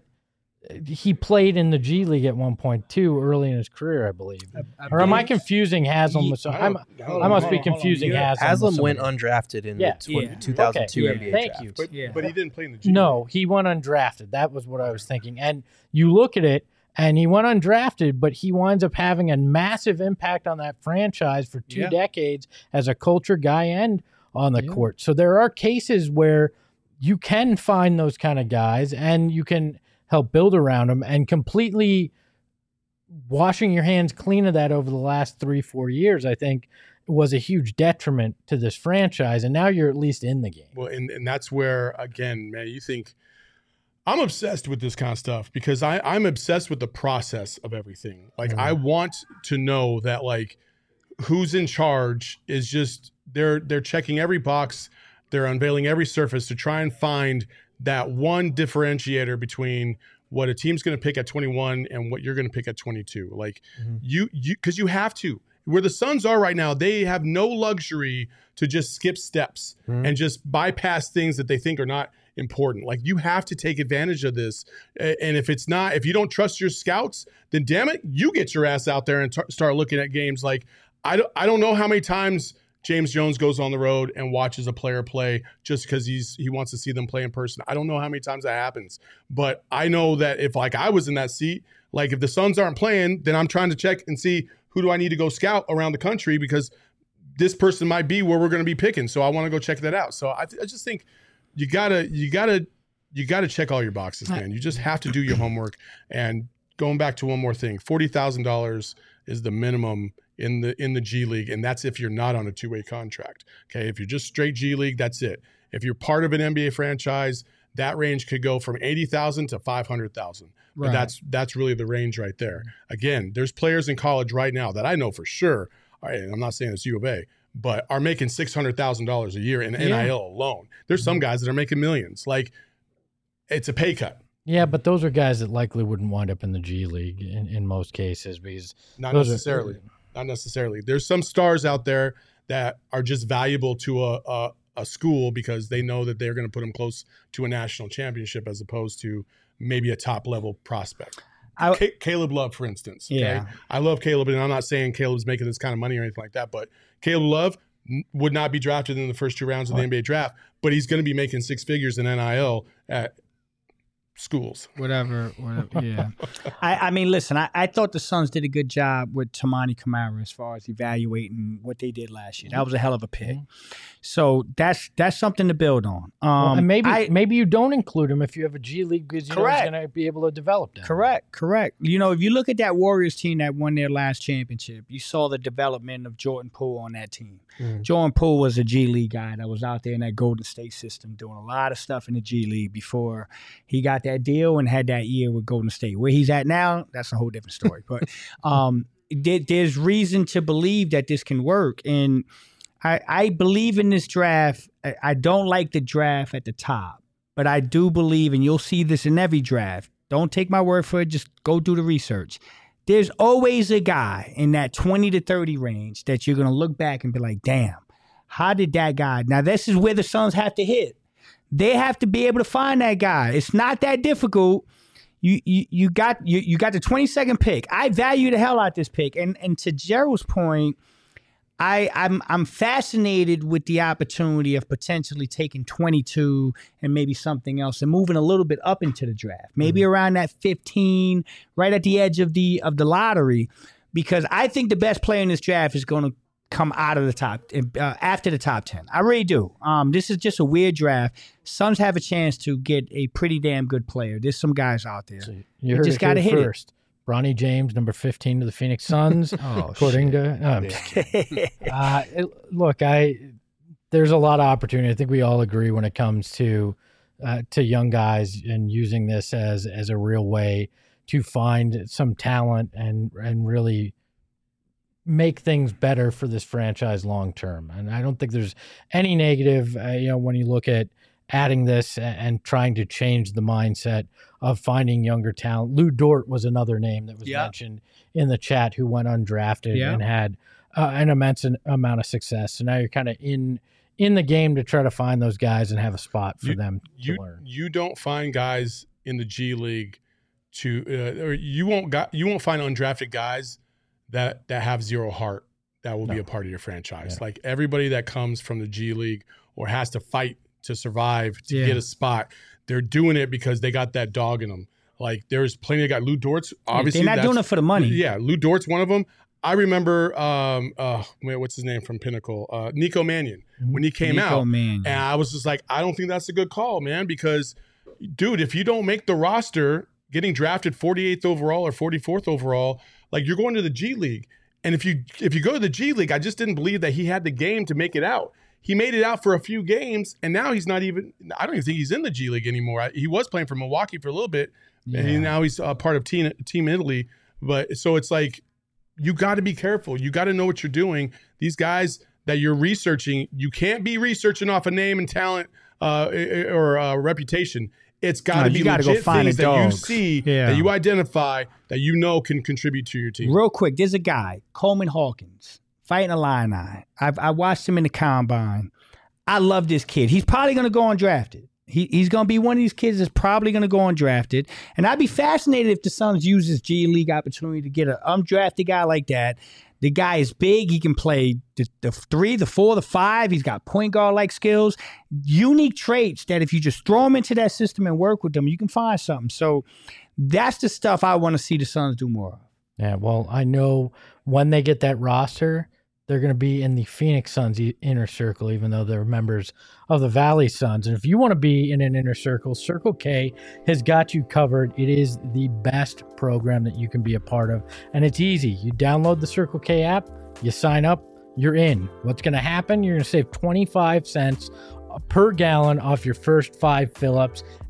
he played in the G League at one point too, early in his career, I believe. Or am I confusing Haslam with some? I must be confusing Haslam. Haslam went undrafted in the 2002 NBA Thank draft. you. But he didn't play in the G League. No, he went undrafted. That was what I was thinking. And you look at it, and he went undrafted, but he winds up having a massive impact on that franchise for 2 decades as a culture guy and on the court. So there are cases where you can find those kind of guys, and you can help build around them, and completely washing your hands clean of that over the last 3-4 years, I think, was a huge detriment to this franchise. And now you're at least in the game. Well, and that's where, again, man, you think I'm obsessed with this kind of stuff because I'm obsessed with the process of everything. Like, I want to know that, like, who's in charge is just they're checking every box, they're unveiling every surface to try and find that one differentiator between what a team's going to pick at 21 and what you're going to pick at 22. Like, because you have to. Where the Suns are right now, they have no luxury to just skip steps and just bypass things that they think are not important. Like, you have to take advantage of this. And if you don't trust your scouts, then damn it, you get your ass out there and start looking at games. Like, I don't know how many times James Jones goes on the road and watches a player play just because he wants to see them play in person. I don't know how many times that happens, but I know that if, like, I was in that seat, like, if the Suns aren't playing, then I'm trying to check and see who do I need to go scout around the country because this person might be where we're going to be picking. So I want to go check that out. So I just think you gotta check all your boxes, man. You just have to do your homework. And going back to one more thing, $40,000 is the minimum in the G League, and that's if you're not on a two-way contract. Okay, if you're just straight G League, that's it. If you're part of an NBA franchise, that range could go from 80,000 to 500,000. But that's really the range right there. Again, there's players in college right now that I know for sure, and I'm not saying it's U of A, but are making $600,000 a year in NIL alone. There's some guys that are making millions. Like, it's a pay cut. Yeah, but those are guys that likely wouldn't wind up in the G League in most cases because not necessarily. Not necessarily. There's some stars out there that are just valuable to a school because they know that they're going to put them close to a national championship as opposed to maybe a top level prospect. Caleb Love, for instance. Okay? Yeah. I love Caleb, and I'm not saying Caleb's making this kind of money or anything like that, but Caleb Love would not be drafted in the first 2 rounds of the NBA draft, but he's going to be making 6 figures in NIL at schools. Whatever, yeah. I mean, listen, I thought the Suns did a good job with Tamani Kamara as far as evaluating what they did last year. That was a hell of a pick. So that's something to build on. And maybe you don't include him if you have a G League because you know he's going to be able to develop that. Correct. You know, if you look at that Warriors team that won their last championship, you saw the development of Jordan Poole on that team. Jordan Poole was a G League guy that was out there in that Golden State system doing a lot of stuff in the G League before he got that deal and had that year with Golden State. Where he's at now, that's a whole different story. But there's reason to believe that this can work. And I believe in this draft. I don't like the draft at the top, but I do believe, and you'll see this in every draft. Don't take my word for it. Just go do the research. There's always a guy in that 20 to 30 range that you're going to look back and be like, damn, how did that guy? Now, this is where the Suns have to hit. They have to be able to find that guy. It's not that difficult. You got the 22nd pick. I value the hell out this pick. And to Gerald's point, I'm fascinated with the opportunity of potentially taking 22 and maybe something else and moving a little bit up into the draft, maybe around that 15, right at the edge of the lottery, because I think the best player in this draft is going to come out of the top after the top 10. I really do. This is just a weird draft. Suns have a chance to get a pretty damn good player. There's some guys out there. So you just got to hit first. Bronny James, number 15 to the Phoenix Suns. According to look, there's a lot of opportunity. I think we all agree when it comes to young guys and using this as a real way to find some talent and really make things better for this franchise long term. And I don't think there's any negative, when you look at adding this and trying to change the mindset of finding younger talent. Lou Dort was another name that was mentioned in the chat who went undrafted and had an immense amount of success. So now you're kind of in the game to try to find those guys and have a spot for them to learn. You don't find guys in the G League or you won't find undrafted guys that have zero heart that will be a part of your franchise. Like everybody that comes from the G League or has to fight to survive, to get a spot, they're doing it because they got that dog in them. Like there's plenty of guys. Lou Dort's obviously they're not doing it for the money. Yeah, Lou Dort's one of them. I remember, what's his name from Pinnacle? Nico Mannion. When he came out, and I was just like, I don't think that's a good call, man, because, dude, if you don't make the roster, getting drafted 48th overall or 44th overall, like you're going to the G League. And if you go to the G League, I just didn't believe that he had the game to make it out. He made it out for a few games, and now he's not even – I don't even think he's in the G League anymore. He was playing for Milwaukee for a little bit, and now he's part of Team Italy. But so it's like you got to be careful. You got to know what you're doing. These guys that you're researching, you can't be researching off a name and talent or reputation. It's got to be legit things that you see, that you identify, that you know can contribute to your team. Real quick, there's a guy, Coleman Hawkins, fighting Illini. I watched him in the combine. I love this kid. He's probably going to go undrafted. He's going to be one of these kids that's probably going to go undrafted. And I'd be fascinated if the Suns use this G League opportunity to get an undrafted guy like that. The guy is big. He can play the 3, the 4, the 5. He's got point guard-like skills. Unique traits that if you just throw him into that system and work with them, you can find something. So that's the stuff I want to see the Suns do more of. Yeah, well, I know when they get that roster, they're going to be in the Phoenix Suns inner circle, even though they're members of the Valley Suns. And if you want to be in an inner circle, Circle K has got you covered. It is the best program that you can be a part of. And it's easy. You download the Circle K app, you sign up, you're in. What's going to happen? You're going to save 25 cents per gallon off your first 5 fill-ups.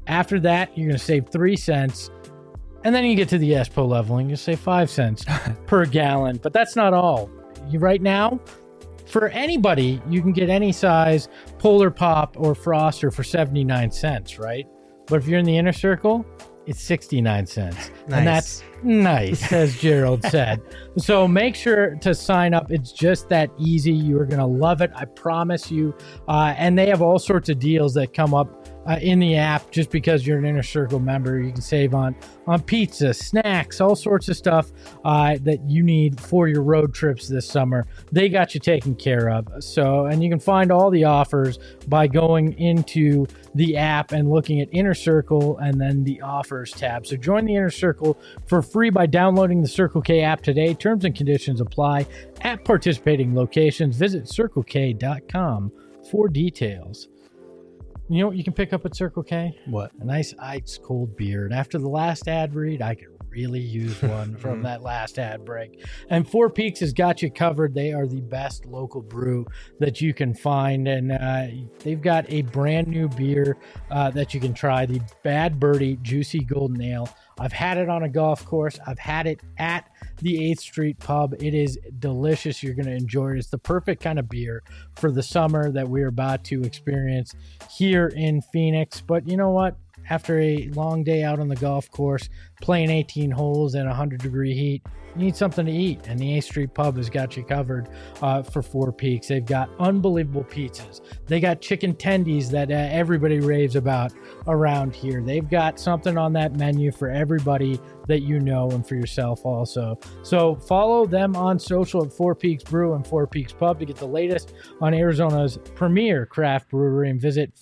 After that, you're going to save 3 cents. And then you get to the ESPO leveling, you save 5 cents per gallon. But that's not all. Right now, for anybody, you can get any size Polar Pop or Froster for 79 cents, right? But if you're in the inner circle, it's 69 cents. Nice. And that's nice, as Gerald said. So make sure to sign up. It's just that easy. You're going to love it. I promise you. And they have all sorts of deals that come up in the app. Just because you're an Inner Circle member, you can save on pizza, snacks, all sorts of stuff that you need for your road trips this summer. They got you taken care of. So, and you can find all the offers by going into the app and looking at Inner Circle and then the offers tab. So join the Inner Circle for free by downloading the Circle K app today. Terms and conditions apply at participating locations. Visit CircleK.com for details. You know what you can pick up at Circle K? What? A nice ice cold beer. And after the last ad read, I could really use one from that last ad break. And Four Peaks has got you covered. They are the best local brew that you can find. And they've got a brand new beer that you can try, the Bad Birdie Juicy Golden Ale. I've had it on a golf course. I've had it at the 8th Street Pub. It is delicious. You're going to enjoy it. It's the perfect kind of beer for the summer that we're about to experience here in Phoenix. But you know what? After a long day out on the golf course, playing 18 holes in 100-degree heat, you need something to eat. And the 8th Street Pub has got you covered for Four Peaks. They've got unbelievable pizzas. They got chicken tendies that everybody raves about around here. They've got something on that menu for everybody that you know and for yourself also. So follow them on social at Four Peaks Brew and Four Peaks Pub to get the latest on Arizona's premier craft brewery, and visit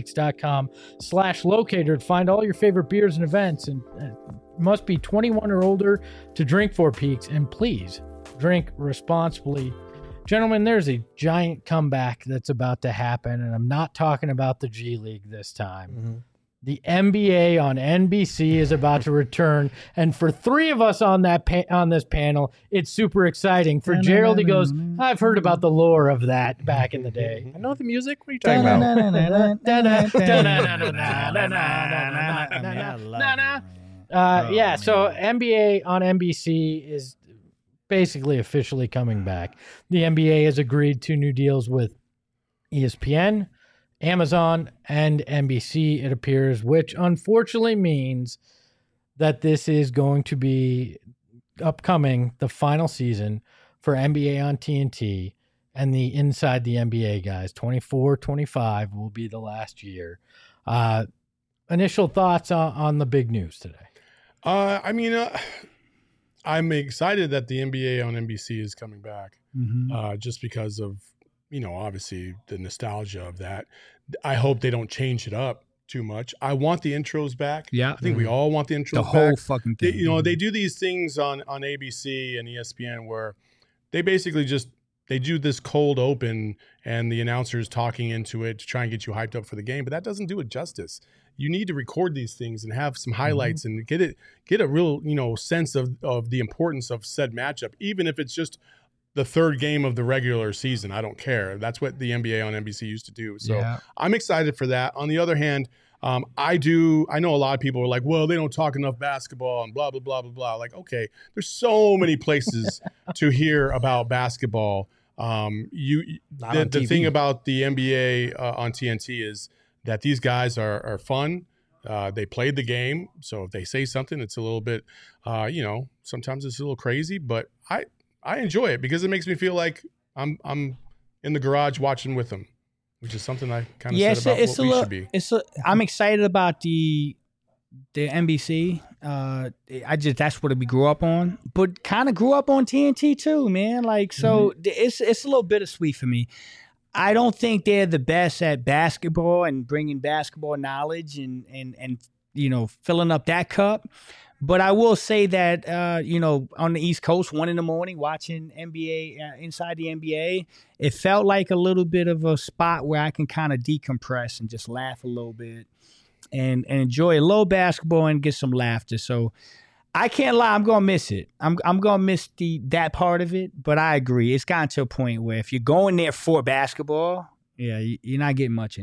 fourpeaks.com/locator to find all your favorite beers and events. And must be 21 or older to drink Four Peaks, and please drink responsibly. Gentlemen, there's a giant comeback that's about to happen, and I'm not talking about the G League this time. Mm-hmm. The NBA on NBC is about to return, and for 3 of us on that on this panel, it's super exciting. For Gerald, he goes, "I've heard about the lore of that back in the day." I know the music. What are you talking about? So NBA on NBC is basically officially coming back. The NBA has agreed to new deals with ESPN, Amazon, and NBC, it appears, which unfortunately means that this is going to be upcoming, the final season for NBA on TNT, and the Inside the NBA guys. 24-25 will be the last year. Initial thoughts on the big news today? I'm excited that the NBA on NBC is coming back, just because of, obviously the nostalgia of that. I hope they don't change it up too much. I want the intros back. Yeah. I think we all want the intros back. The whole fucking thing. They do these things on ABC and ESPN where they basically they do this cold open and the announcer's talking into it to try and get you hyped up for the game, but that doesn't do it justice. You need to record these things and have some highlights and get a real, sense of the importance of said matchup, even if it's just the third game of the regular season. I don't care. That's what the NBA on NBC used to do. So I'm excited for that. On the other hand, I know a lot of people are like, well, they don't talk enough basketball and blah, blah, blah, blah, blah. Like, okay, there's so many places to hear about basketball. The thing about the NBA on TNT is that these guys are fun. They played the game. So if they say something, it's a little bit, sometimes it's a little crazy, but I enjoy it because it makes me feel like I'm in the garage watching with them, which is something I kind of said about what we should be. I'm excited about the NBC. That's what we grew up on, but kind of grew up on TNT too, man. Like, so it's a little bittersweet for me. I don't think they're the best at basketball and bringing basketball knowledge and filling up that cup. But I will say that, on the East Coast, 1 a.m, watching NBA, Inside the NBA, it felt like a little bit of a spot where I can kind of decompress and just laugh a little bit and enjoy a little basketball and get some laughter. So I can't lie, I'm going to miss it. I'm going to miss that part of it, but I agree. It's gotten to a point where if you're going there for basketball, you're not getting much anymore.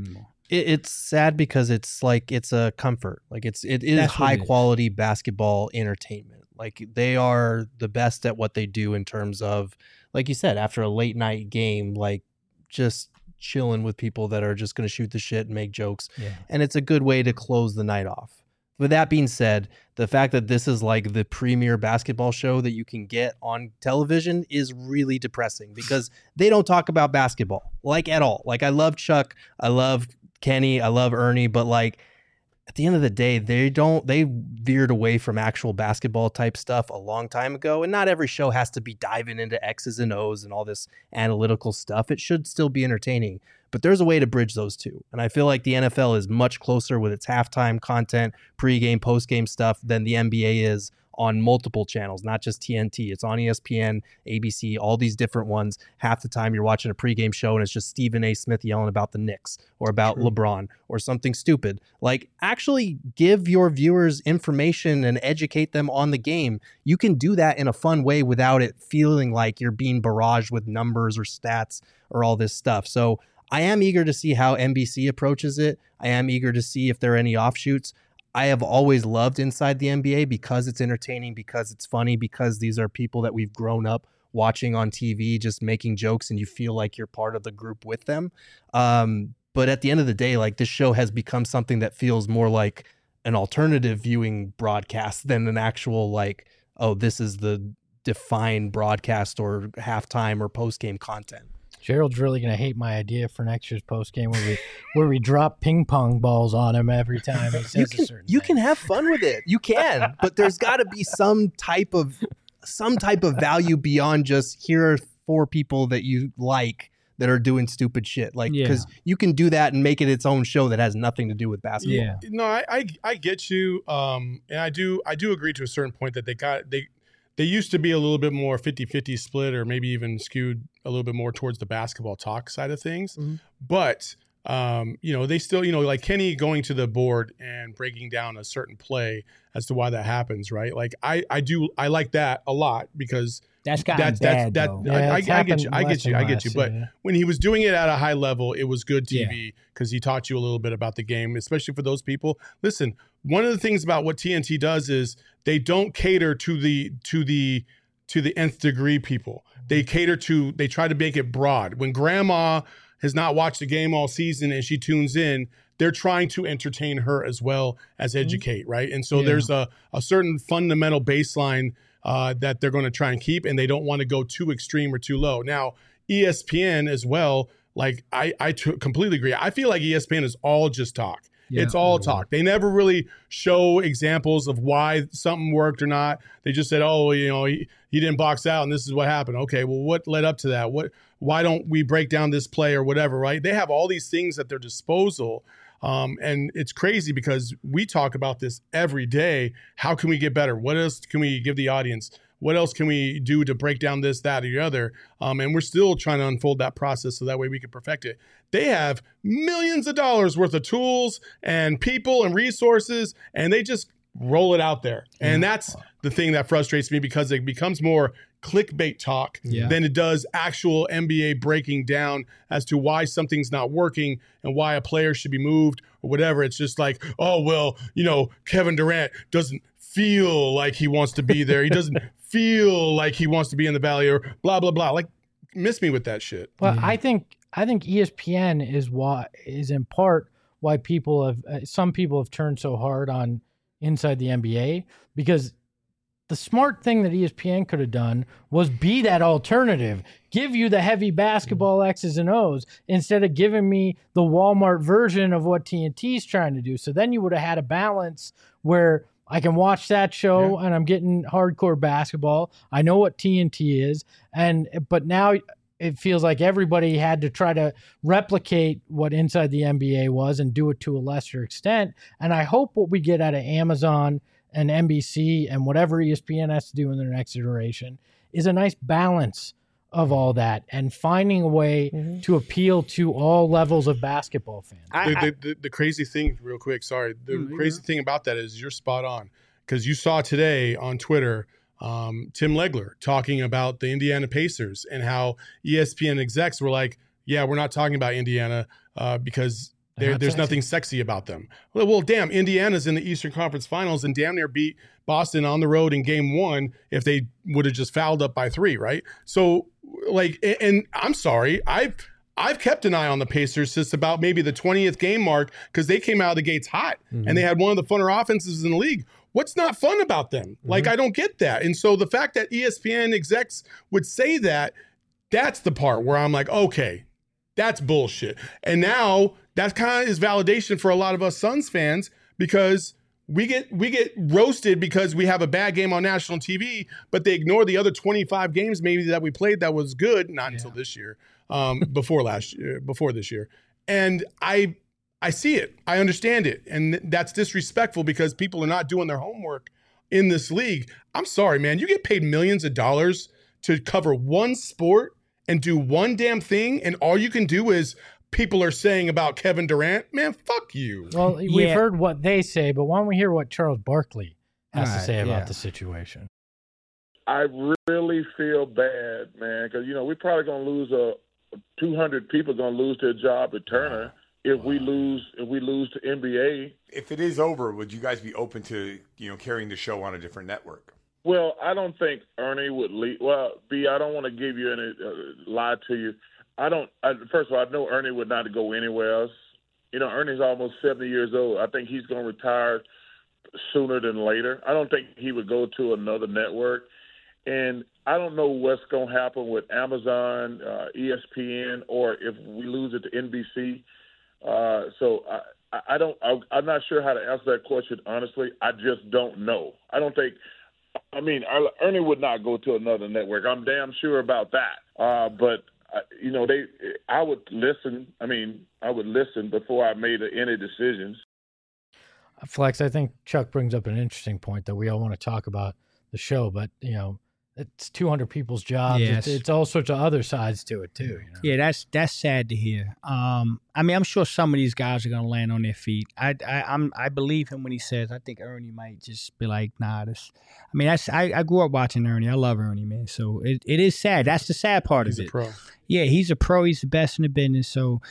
It's sad because it's like it's a comfort. Like it is That's what high it is. quality basketball entertainment. Like they are the best at what they do in terms of, like you said, after a late night game, like just chilling with people that are just going to shoot the shit and make jokes. Yeah. And it's a good way to close the night off. With that being said, the fact that this is like the premier basketball show that you can get on television is really depressing because they don't talk about basketball like at all. Like I love Chuck, I love Kenny, I love Ernie, but like at the end of the day, they veered away from actual basketball type stuff a long time ago. And not every show has to be diving into X's and O's and all this analytical stuff. It should still be entertaining, but there's a way to bridge those two. And I feel like the NFL is much closer with its halftime content, pregame, postgame stuff than the NBA is on multiple channels, not just TNT. It's on ESPN, ABC, all these different ones. Half the time you're watching a pregame show and it's just Stephen A. Smith yelling about the Knicks or about LeBron or something stupid. Like actually give your viewers information and educate them on the game. You can do that in a fun way without it feeling like you're being barraged with numbers or stats or all this stuff. So I am eager to see how NBC approaches it. I am eager to see if there are any offshoots. I have always loved Inside the NBA because it's entertaining, because it's funny, because these are people that we've grown up watching on TV, just making jokes, and you feel like you're part of the group with them. But at the end of the day, like this show has become something that feels more like an alternative viewing broadcast than an actual like, oh, this is the defined broadcast or halftime or post-game content. Gerald's really gonna hate my idea for next year's post game where we drop ping pong balls on him every time he says a certain You thing. can have fun with it. You can, but there's got to be some type of value beyond just here are 4 people that you like that are doing stupid shit. Like because you can do that and make it its own show that has nothing to do with basketball. Yeah. No, I get you, and I do agree to a certain point that they used to be a little bit more 50-50 split or maybe even skewed a little bit more towards the basketball talk side of things. Mm-hmm. But, they still, like Kenny going to the board and breaking down a certain play as to why that happens, right? Like I like that a lot because that's gotten bad, though. I get you. But when he was doing it at a high level, it was good TV because he taught you a little bit about the game, especially for those people. Listen, one of the things about what TNT does is they don't cater to the nth degree people. They try to make it broad. When grandma has not watched a game all season and she tunes in, they're trying to entertain her as well as educate, right? And so there's a certain fundamental baseline that they're going to try and keep, and they don't want to go too extreme or too low. Now, ESPN as well, like I completely agree. I feel like ESPN is all just talk. Yeah, it's all talk. They never really show examples of why something worked or not. They just said, oh, he didn't box out and this is what happened. Okay, well, what led up to that? Why don't we break down this play or whatever, right? They have all these things at their disposal. And it's crazy because we talk about this every day. How can we get better? What else can we give the audience? What else can we do to break down this, that, or the other? And we're still trying to unfold that process so that way we can perfect it. They have millions of dollars worth of tools and people and resources, and they just roll it out there. And that's the thing that frustrates me because it becomes more clickbait talk than it does actual NBA breaking down as to why something's not working and why a player should be moved or whatever. It's just like, oh, well, Kevin Durant doesn't feel like he wants to be there. He doesn't feel like he wants to be in the Valley or blah, blah, blah. Like, miss me with that shit. Well, I think ESPN is in part why some people have turned so hard on Inside the NBA, because the smart thing that ESPN could have done was be that alternative, give you the heavy basketball X's and O's instead of giving me the Walmart version of what TNT's trying to do. So then you would have had a balance where I can watch that show and I'm getting hardcore basketball. I know what TNT is, but now it feels like everybody had to try to replicate what Inside the NBA was and do it to a lesser extent. And I hope what we get out of Amazon and NBC and whatever ESPN has to do in their next iteration is a nice balance of all that and finding a way to appeal to all levels of basketball fans. The crazy thing, real quick, sorry. The crazy thing about that is you're spot on because you saw today on Twitter Tim Legler talking about the Indiana Pacers and how ESPN execs were like, yeah, we're not talking about Indiana because There's nothing sexy about them. Well, damn, Indiana's in the Eastern Conference Finals and damn near beat Boston on the road in game 1 if they would have just fouled up by 3, right? So, like, and I'm sorry, I've kept an eye on the Pacers since about maybe the 20th game mark because they came out of the gates hot and they had one of the funner offenses in the league. What's not fun about them? Like, I don't get that. And so the fact that ESPN execs would say that, that's the part where I'm like, okay, that's bullshit. And now that kind of is validation for a lot of us Suns fans because we get roasted because we have a bad game on national TV, but they ignore the other 25 games maybe that we played that was good, not until this year, before this year. And I see it. I understand it. And that's disrespectful because people are not doing their homework in this league. I'm sorry, man. You get paid millions of dollars to cover one sport and do one damn thing, and all you can do is people are saying about Kevin Durant. Man, fuck you. Well, we've heard what they say, but why don't we hear what Charles Barkley has to say about the situation? I really feel bad, man, because, we're probably going to lose 200 people going to lose their job at Turner. If we lose to NBA. If it is over, would you guys be open to, carrying the show on a different network? Well, I don't think Ernie would leave. Well, B, I don't want to give you any lie to you. First of all, I know Ernie would not go anywhere else. Ernie's almost 70 years old. I think he's going to retire sooner than later. I don't think he would go to another network. And I don't know what's going to happen with Amazon, ESPN, or if we lose it to NBC. So I'm not sure how to answer that question, honestly. I just don't know. Ernie would not go to another network. I'm damn sure about that. But I would listen. I would listen before I made any decisions. Flex, I think Chuck brings up an interesting point that we all want to talk about the show, but it's 200 people's jobs. Yes. It's all sorts of other sides to it too. Yeah, that's sad to hear. I'm sure some of these guys are gonna land on their feet. I believe him when he says I think Ernie might just be like, nah. I grew up watching Ernie. I love Ernie, man. So it is sad. That's the sad part of it. He's a pro. Yeah, he's a pro. He's the best in the business. So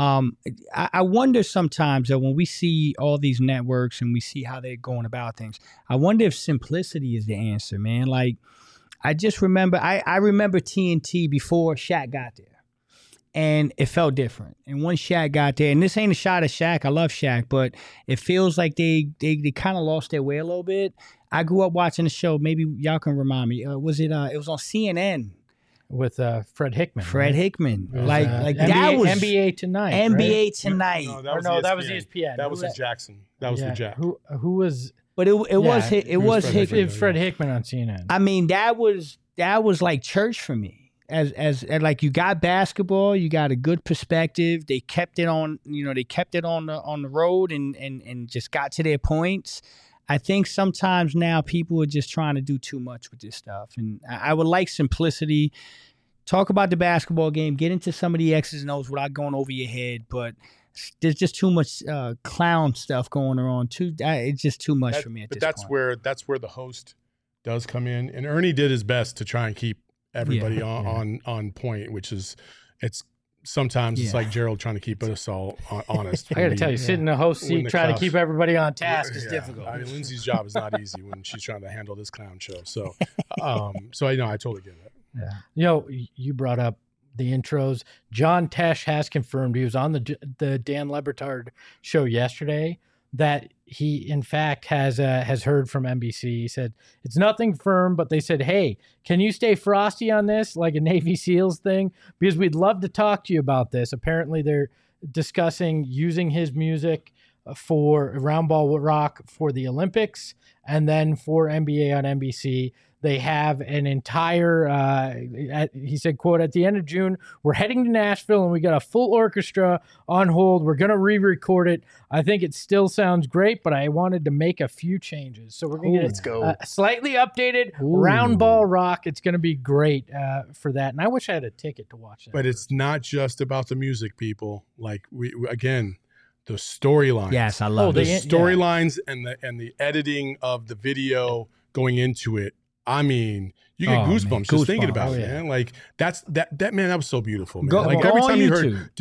I wonder sometimes that when we see all these networks and we see how they're going about things, I wonder if simplicity is the answer, man. Like, I just remember, I remember TNT before Shaq got there, and it felt different. And once Shaq got there, and this ain't a shot at Shaq, I love Shaq, but it feels like they kind of lost their way a little bit. I grew up watching the show. Maybe y'all can remind me. It was on CNN with Fred Hickman. Fred Hickman, like NBA, that was NBA Tonight. NBA right? Tonight. That was ESPN. That was with Jackson. That was with Jack. Who was? But it was Fred Hickman on CNN. That was like church for me. As like, you got basketball, you got a good perspective. They kept it on, on the road and just got to their points. I think sometimes now people are just trying to do too much with this stuff, and I would like simplicity. Talk about the basketball game, get into some of the X's and O's without going over your head, but there's just too much clown stuff going on. It's just too much for me at this point. That's where the host does come in, and Ernie did his best to try and keep everybody on point, which is sometimes it's like Gerald trying to keep us all honest. I got to tell you, sitting in a host seat trying to keep everybody on task is difficult. Lindsay's job is not easy when she's trying to handle this clown show. So, I totally get it. Yeah. You brought up the intros. John Tesh has confirmed, he was on the Dan Le Batard show yesterday, that he in fact has heard from NBC. He said it's nothing firm, but they said, hey, can you stay frosty on this, like a Navy SEALs thing, because we'd love to talk to you about this. Apparently they're discussing using his music for Round Ball Rock for the Olympics and then for NBA on NBC. They have an entire, he said, quote, at the end of June, we're heading to Nashville and we got a full orchestra on hold. We're going to re-record it. I think it still sounds great, but I wanted to make a few changes. So we're going to get a slightly updated Round Ball Rock. It's going to be great for that. And I wish I had a ticket to watch that. But it's not just about the music, people. Like, again, the storylines. Yes, I love the storylines and the editing of the video going into it I mean, you get Oh, man, goosebumps just thinking goosebumps. about Oh, it, yeah. man. Like that man, that was so beautiful, man. Go- like go every on time you YouTube. heard,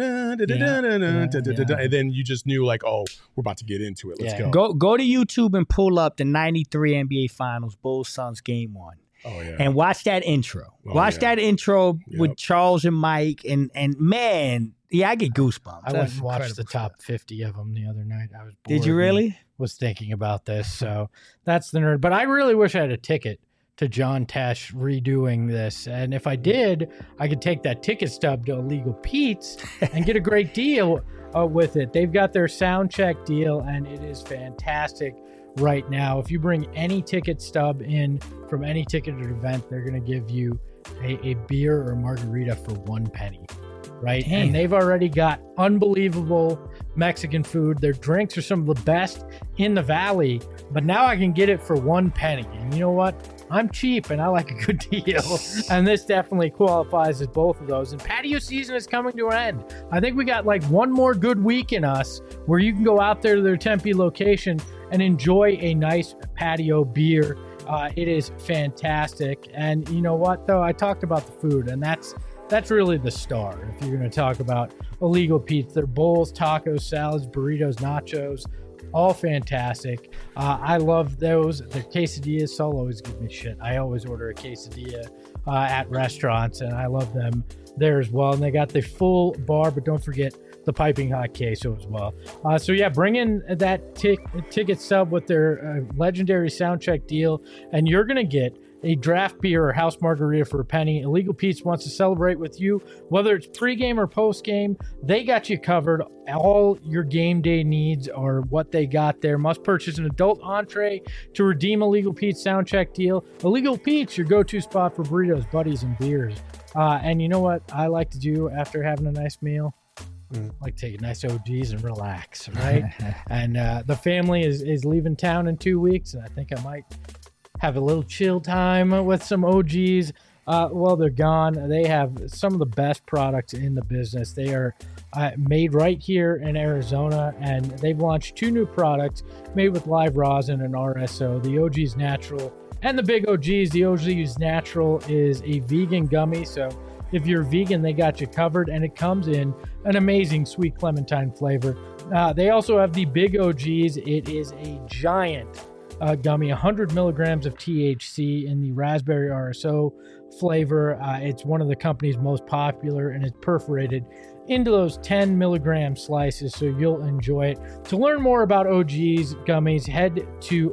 dun-dun-dun-dun-dun-dun-dun-dun, and then you just knew like, oh, we're about to get into it. Let's Yeah. go. Go to YouTube and pull up the 93 NBA Finals, Bulls Suns Game 1. Oh yeah. And watch that intro. Oh, watch yeah. that intro with Yep. Charles and Mike. And man, yeah, I get goosebumps. I went That's and watched the incredible top 50 of them the other night. I was bored Did you and really? was thinking about this. So that's the nerd. But I really wish I had a ticket to John Tesh redoing this. And if I did, I could take that ticket stub to Illegal Pete's and get a great deal with it. They've got their sound check deal, and it is fantastic right now. If you bring any ticket stub in from any ticketed event, they're going to give you a beer or margarita for 1 penny. Right. Damn. And they've already got unbelievable Mexican food. Their drinks are some of the best in the valley, but now I can get it for 1 penny. And you know what? I'm cheap and I like a good deal. And this definitely qualifies as both of those. And patio season is coming to an end. I think we got like one more good week in us where you can go out there to their Tempe location and enjoy a nice patio beer. It is fantastic. And you know what, though? I talked about the food, and that's really the star. If you're going to talk about Illegal Pete's, their bowls, tacos, salads, burritos, nachos, all fantastic. I love those. Their quesadillas, Saul always gives me shit. I always order a quesadilla at restaurants, and I love them there as well. And they got the full bar, but don't forget the piping hot queso as well. So yeah, bring in that ticket sub with their legendary soundcheck deal, and you're going to get a draft beer or house margarita for a penny. Illegal Pete's wants to celebrate with you, whether it's pregame or postgame. They got you covered. All your game day needs are what they got there. Must purchase an adult entree to redeem Illegal Pete's soundcheck deal. Illegal Pete's, your go-to spot for burritos, buddies, and beers. And you know what I like to do after having a nice meal? I like to take a nice OGs and relax, right? And the family is leaving town in 2 weeks, and I think I might have a little chill time with some OGs. Well, they're gone. They have some of the best products in the business. They are made right here in Arizona, and they've launched 2 new products made with live rosin and RSO, the OG's Natural and the Big OGs. The OG's Natural is a vegan gummy, so if you're vegan, they got you covered, and it comes in an amazing sweet clementine flavor. They also have the Big OGs. It is a giant gummy, 100 milligrams of THC in the raspberry RSO flavor. It's one of the company's most popular, and it's perforated into those 10 milligram slices, so you'll enjoy it. To learn more about OG's gummies, head to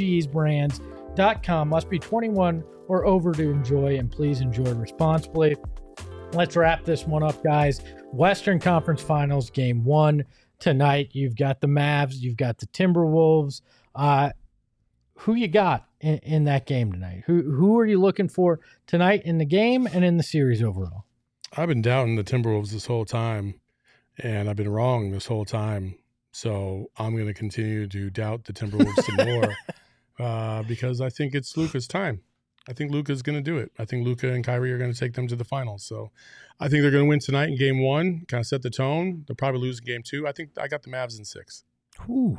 ogsbrands.com. Must be 21 or over to enjoy, and please enjoy responsibly. Let's wrap this one up, guys. Western Conference Finals Game 1 tonight. You've got the Mavs, you've got the Timberwolves. Who you got in that game tonight? Who are you looking for tonight in the game and in the series overall? I've been doubting the Timberwolves this whole time, and I've been wrong this whole time. So I'm going to continue to doubt the Timberwolves some more because I think it's Luka's time. I think Luka's going to do it. I think Luka and Kyrie are going to take them to the finals. So I think they're going to win tonight in game 1, kind of set the tone. They'll probably lose in game 2. I think I got the Mavs in 6. Ooh.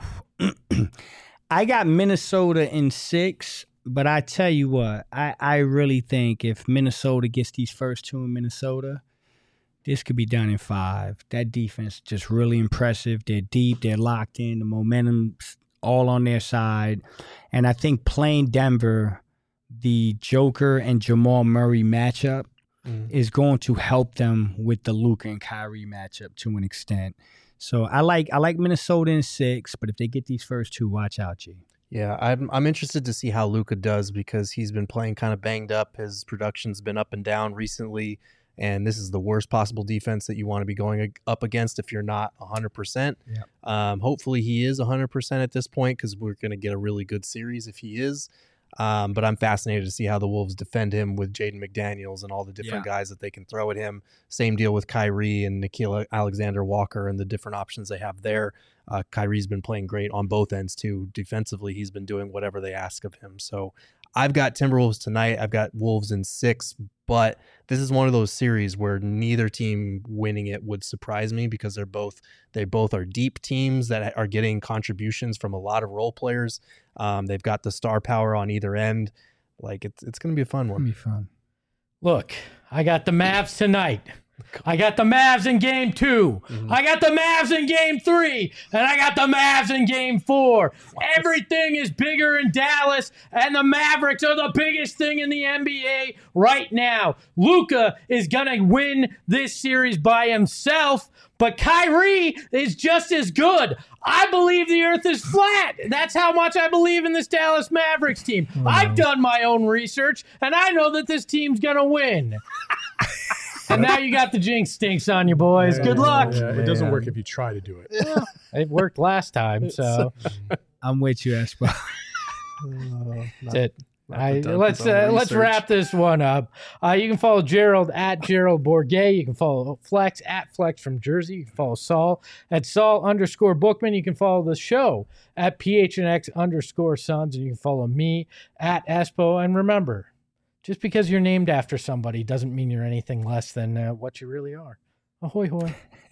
I got Minnesota in 6, but I tell you what, I really think if Minnesota gets these first 2 in Minnesota, this could be done in 5. That defense is just really impressive. They're deep. They're locked in. The momentum's all on their side. And I think playing Denver, the Joker and Jamal Murray matchup is going to help them with the Luka and Kyrie matchup to an extent. So I like Minnesota in 6, but if they get these first 2, watch out, G. Yeah, I'm interested to see how Luka does because he's been playing kind of banged up. His production's been up and down recently, and this is the worst possible defense that you want to be going up against if you're not 100%. Yep. Hopefully he is 100% at this point because we're going to get a really good series if he is. But I'm fascinated to see how the Wolves defend him with Jaden McDaniels and all the different guys that they can throw at him. Same deal with Kyrie and Nickeil Alexander-Walker and the different options they have there. Kyrie's been playing great on both ends too. Defensively, he's been doing whatever they ask of him. So I've got Timberwolves tonight. I've got Wolves in 6, but this is one of those series where neither team winning it would surprise me because they both are deep teams that are getting contributions from a lot of role players. They've got the star power on either end. Like it's going to be a fun It'll one. be fun. Look, I got the Mavs tonight. I got the Mavs in game 2. I got the Mavs in game 3. And I got the Mavs in game 4. Everything is bigger in Dallas, and the Mavericks are the biggest thing in the NBA right now. Luka is going to win this series by himself, but Kyrie is just as good. I believe the earth is flat. That's how much I believe in this Dallas Mavericks team. I've done my own research, and I know that this team's going to win. And now you got the jinx stinks on you, boys. Good luck. It doesn't work if you try to do it. It worked last time, so I'm with you, Espo. that's it. Let's wrap this one up. You can follow Gerald at Gerald Bourget. You can follow Flex at Flex from Jersey. You can follow Saul at Saul_Bookman. You can follow the show at PHNX_Sons. And you can follow me at Espo. And remember, just because you're named after somebody doesn't mean you're anything less than what you really are. Ahoy, hoy.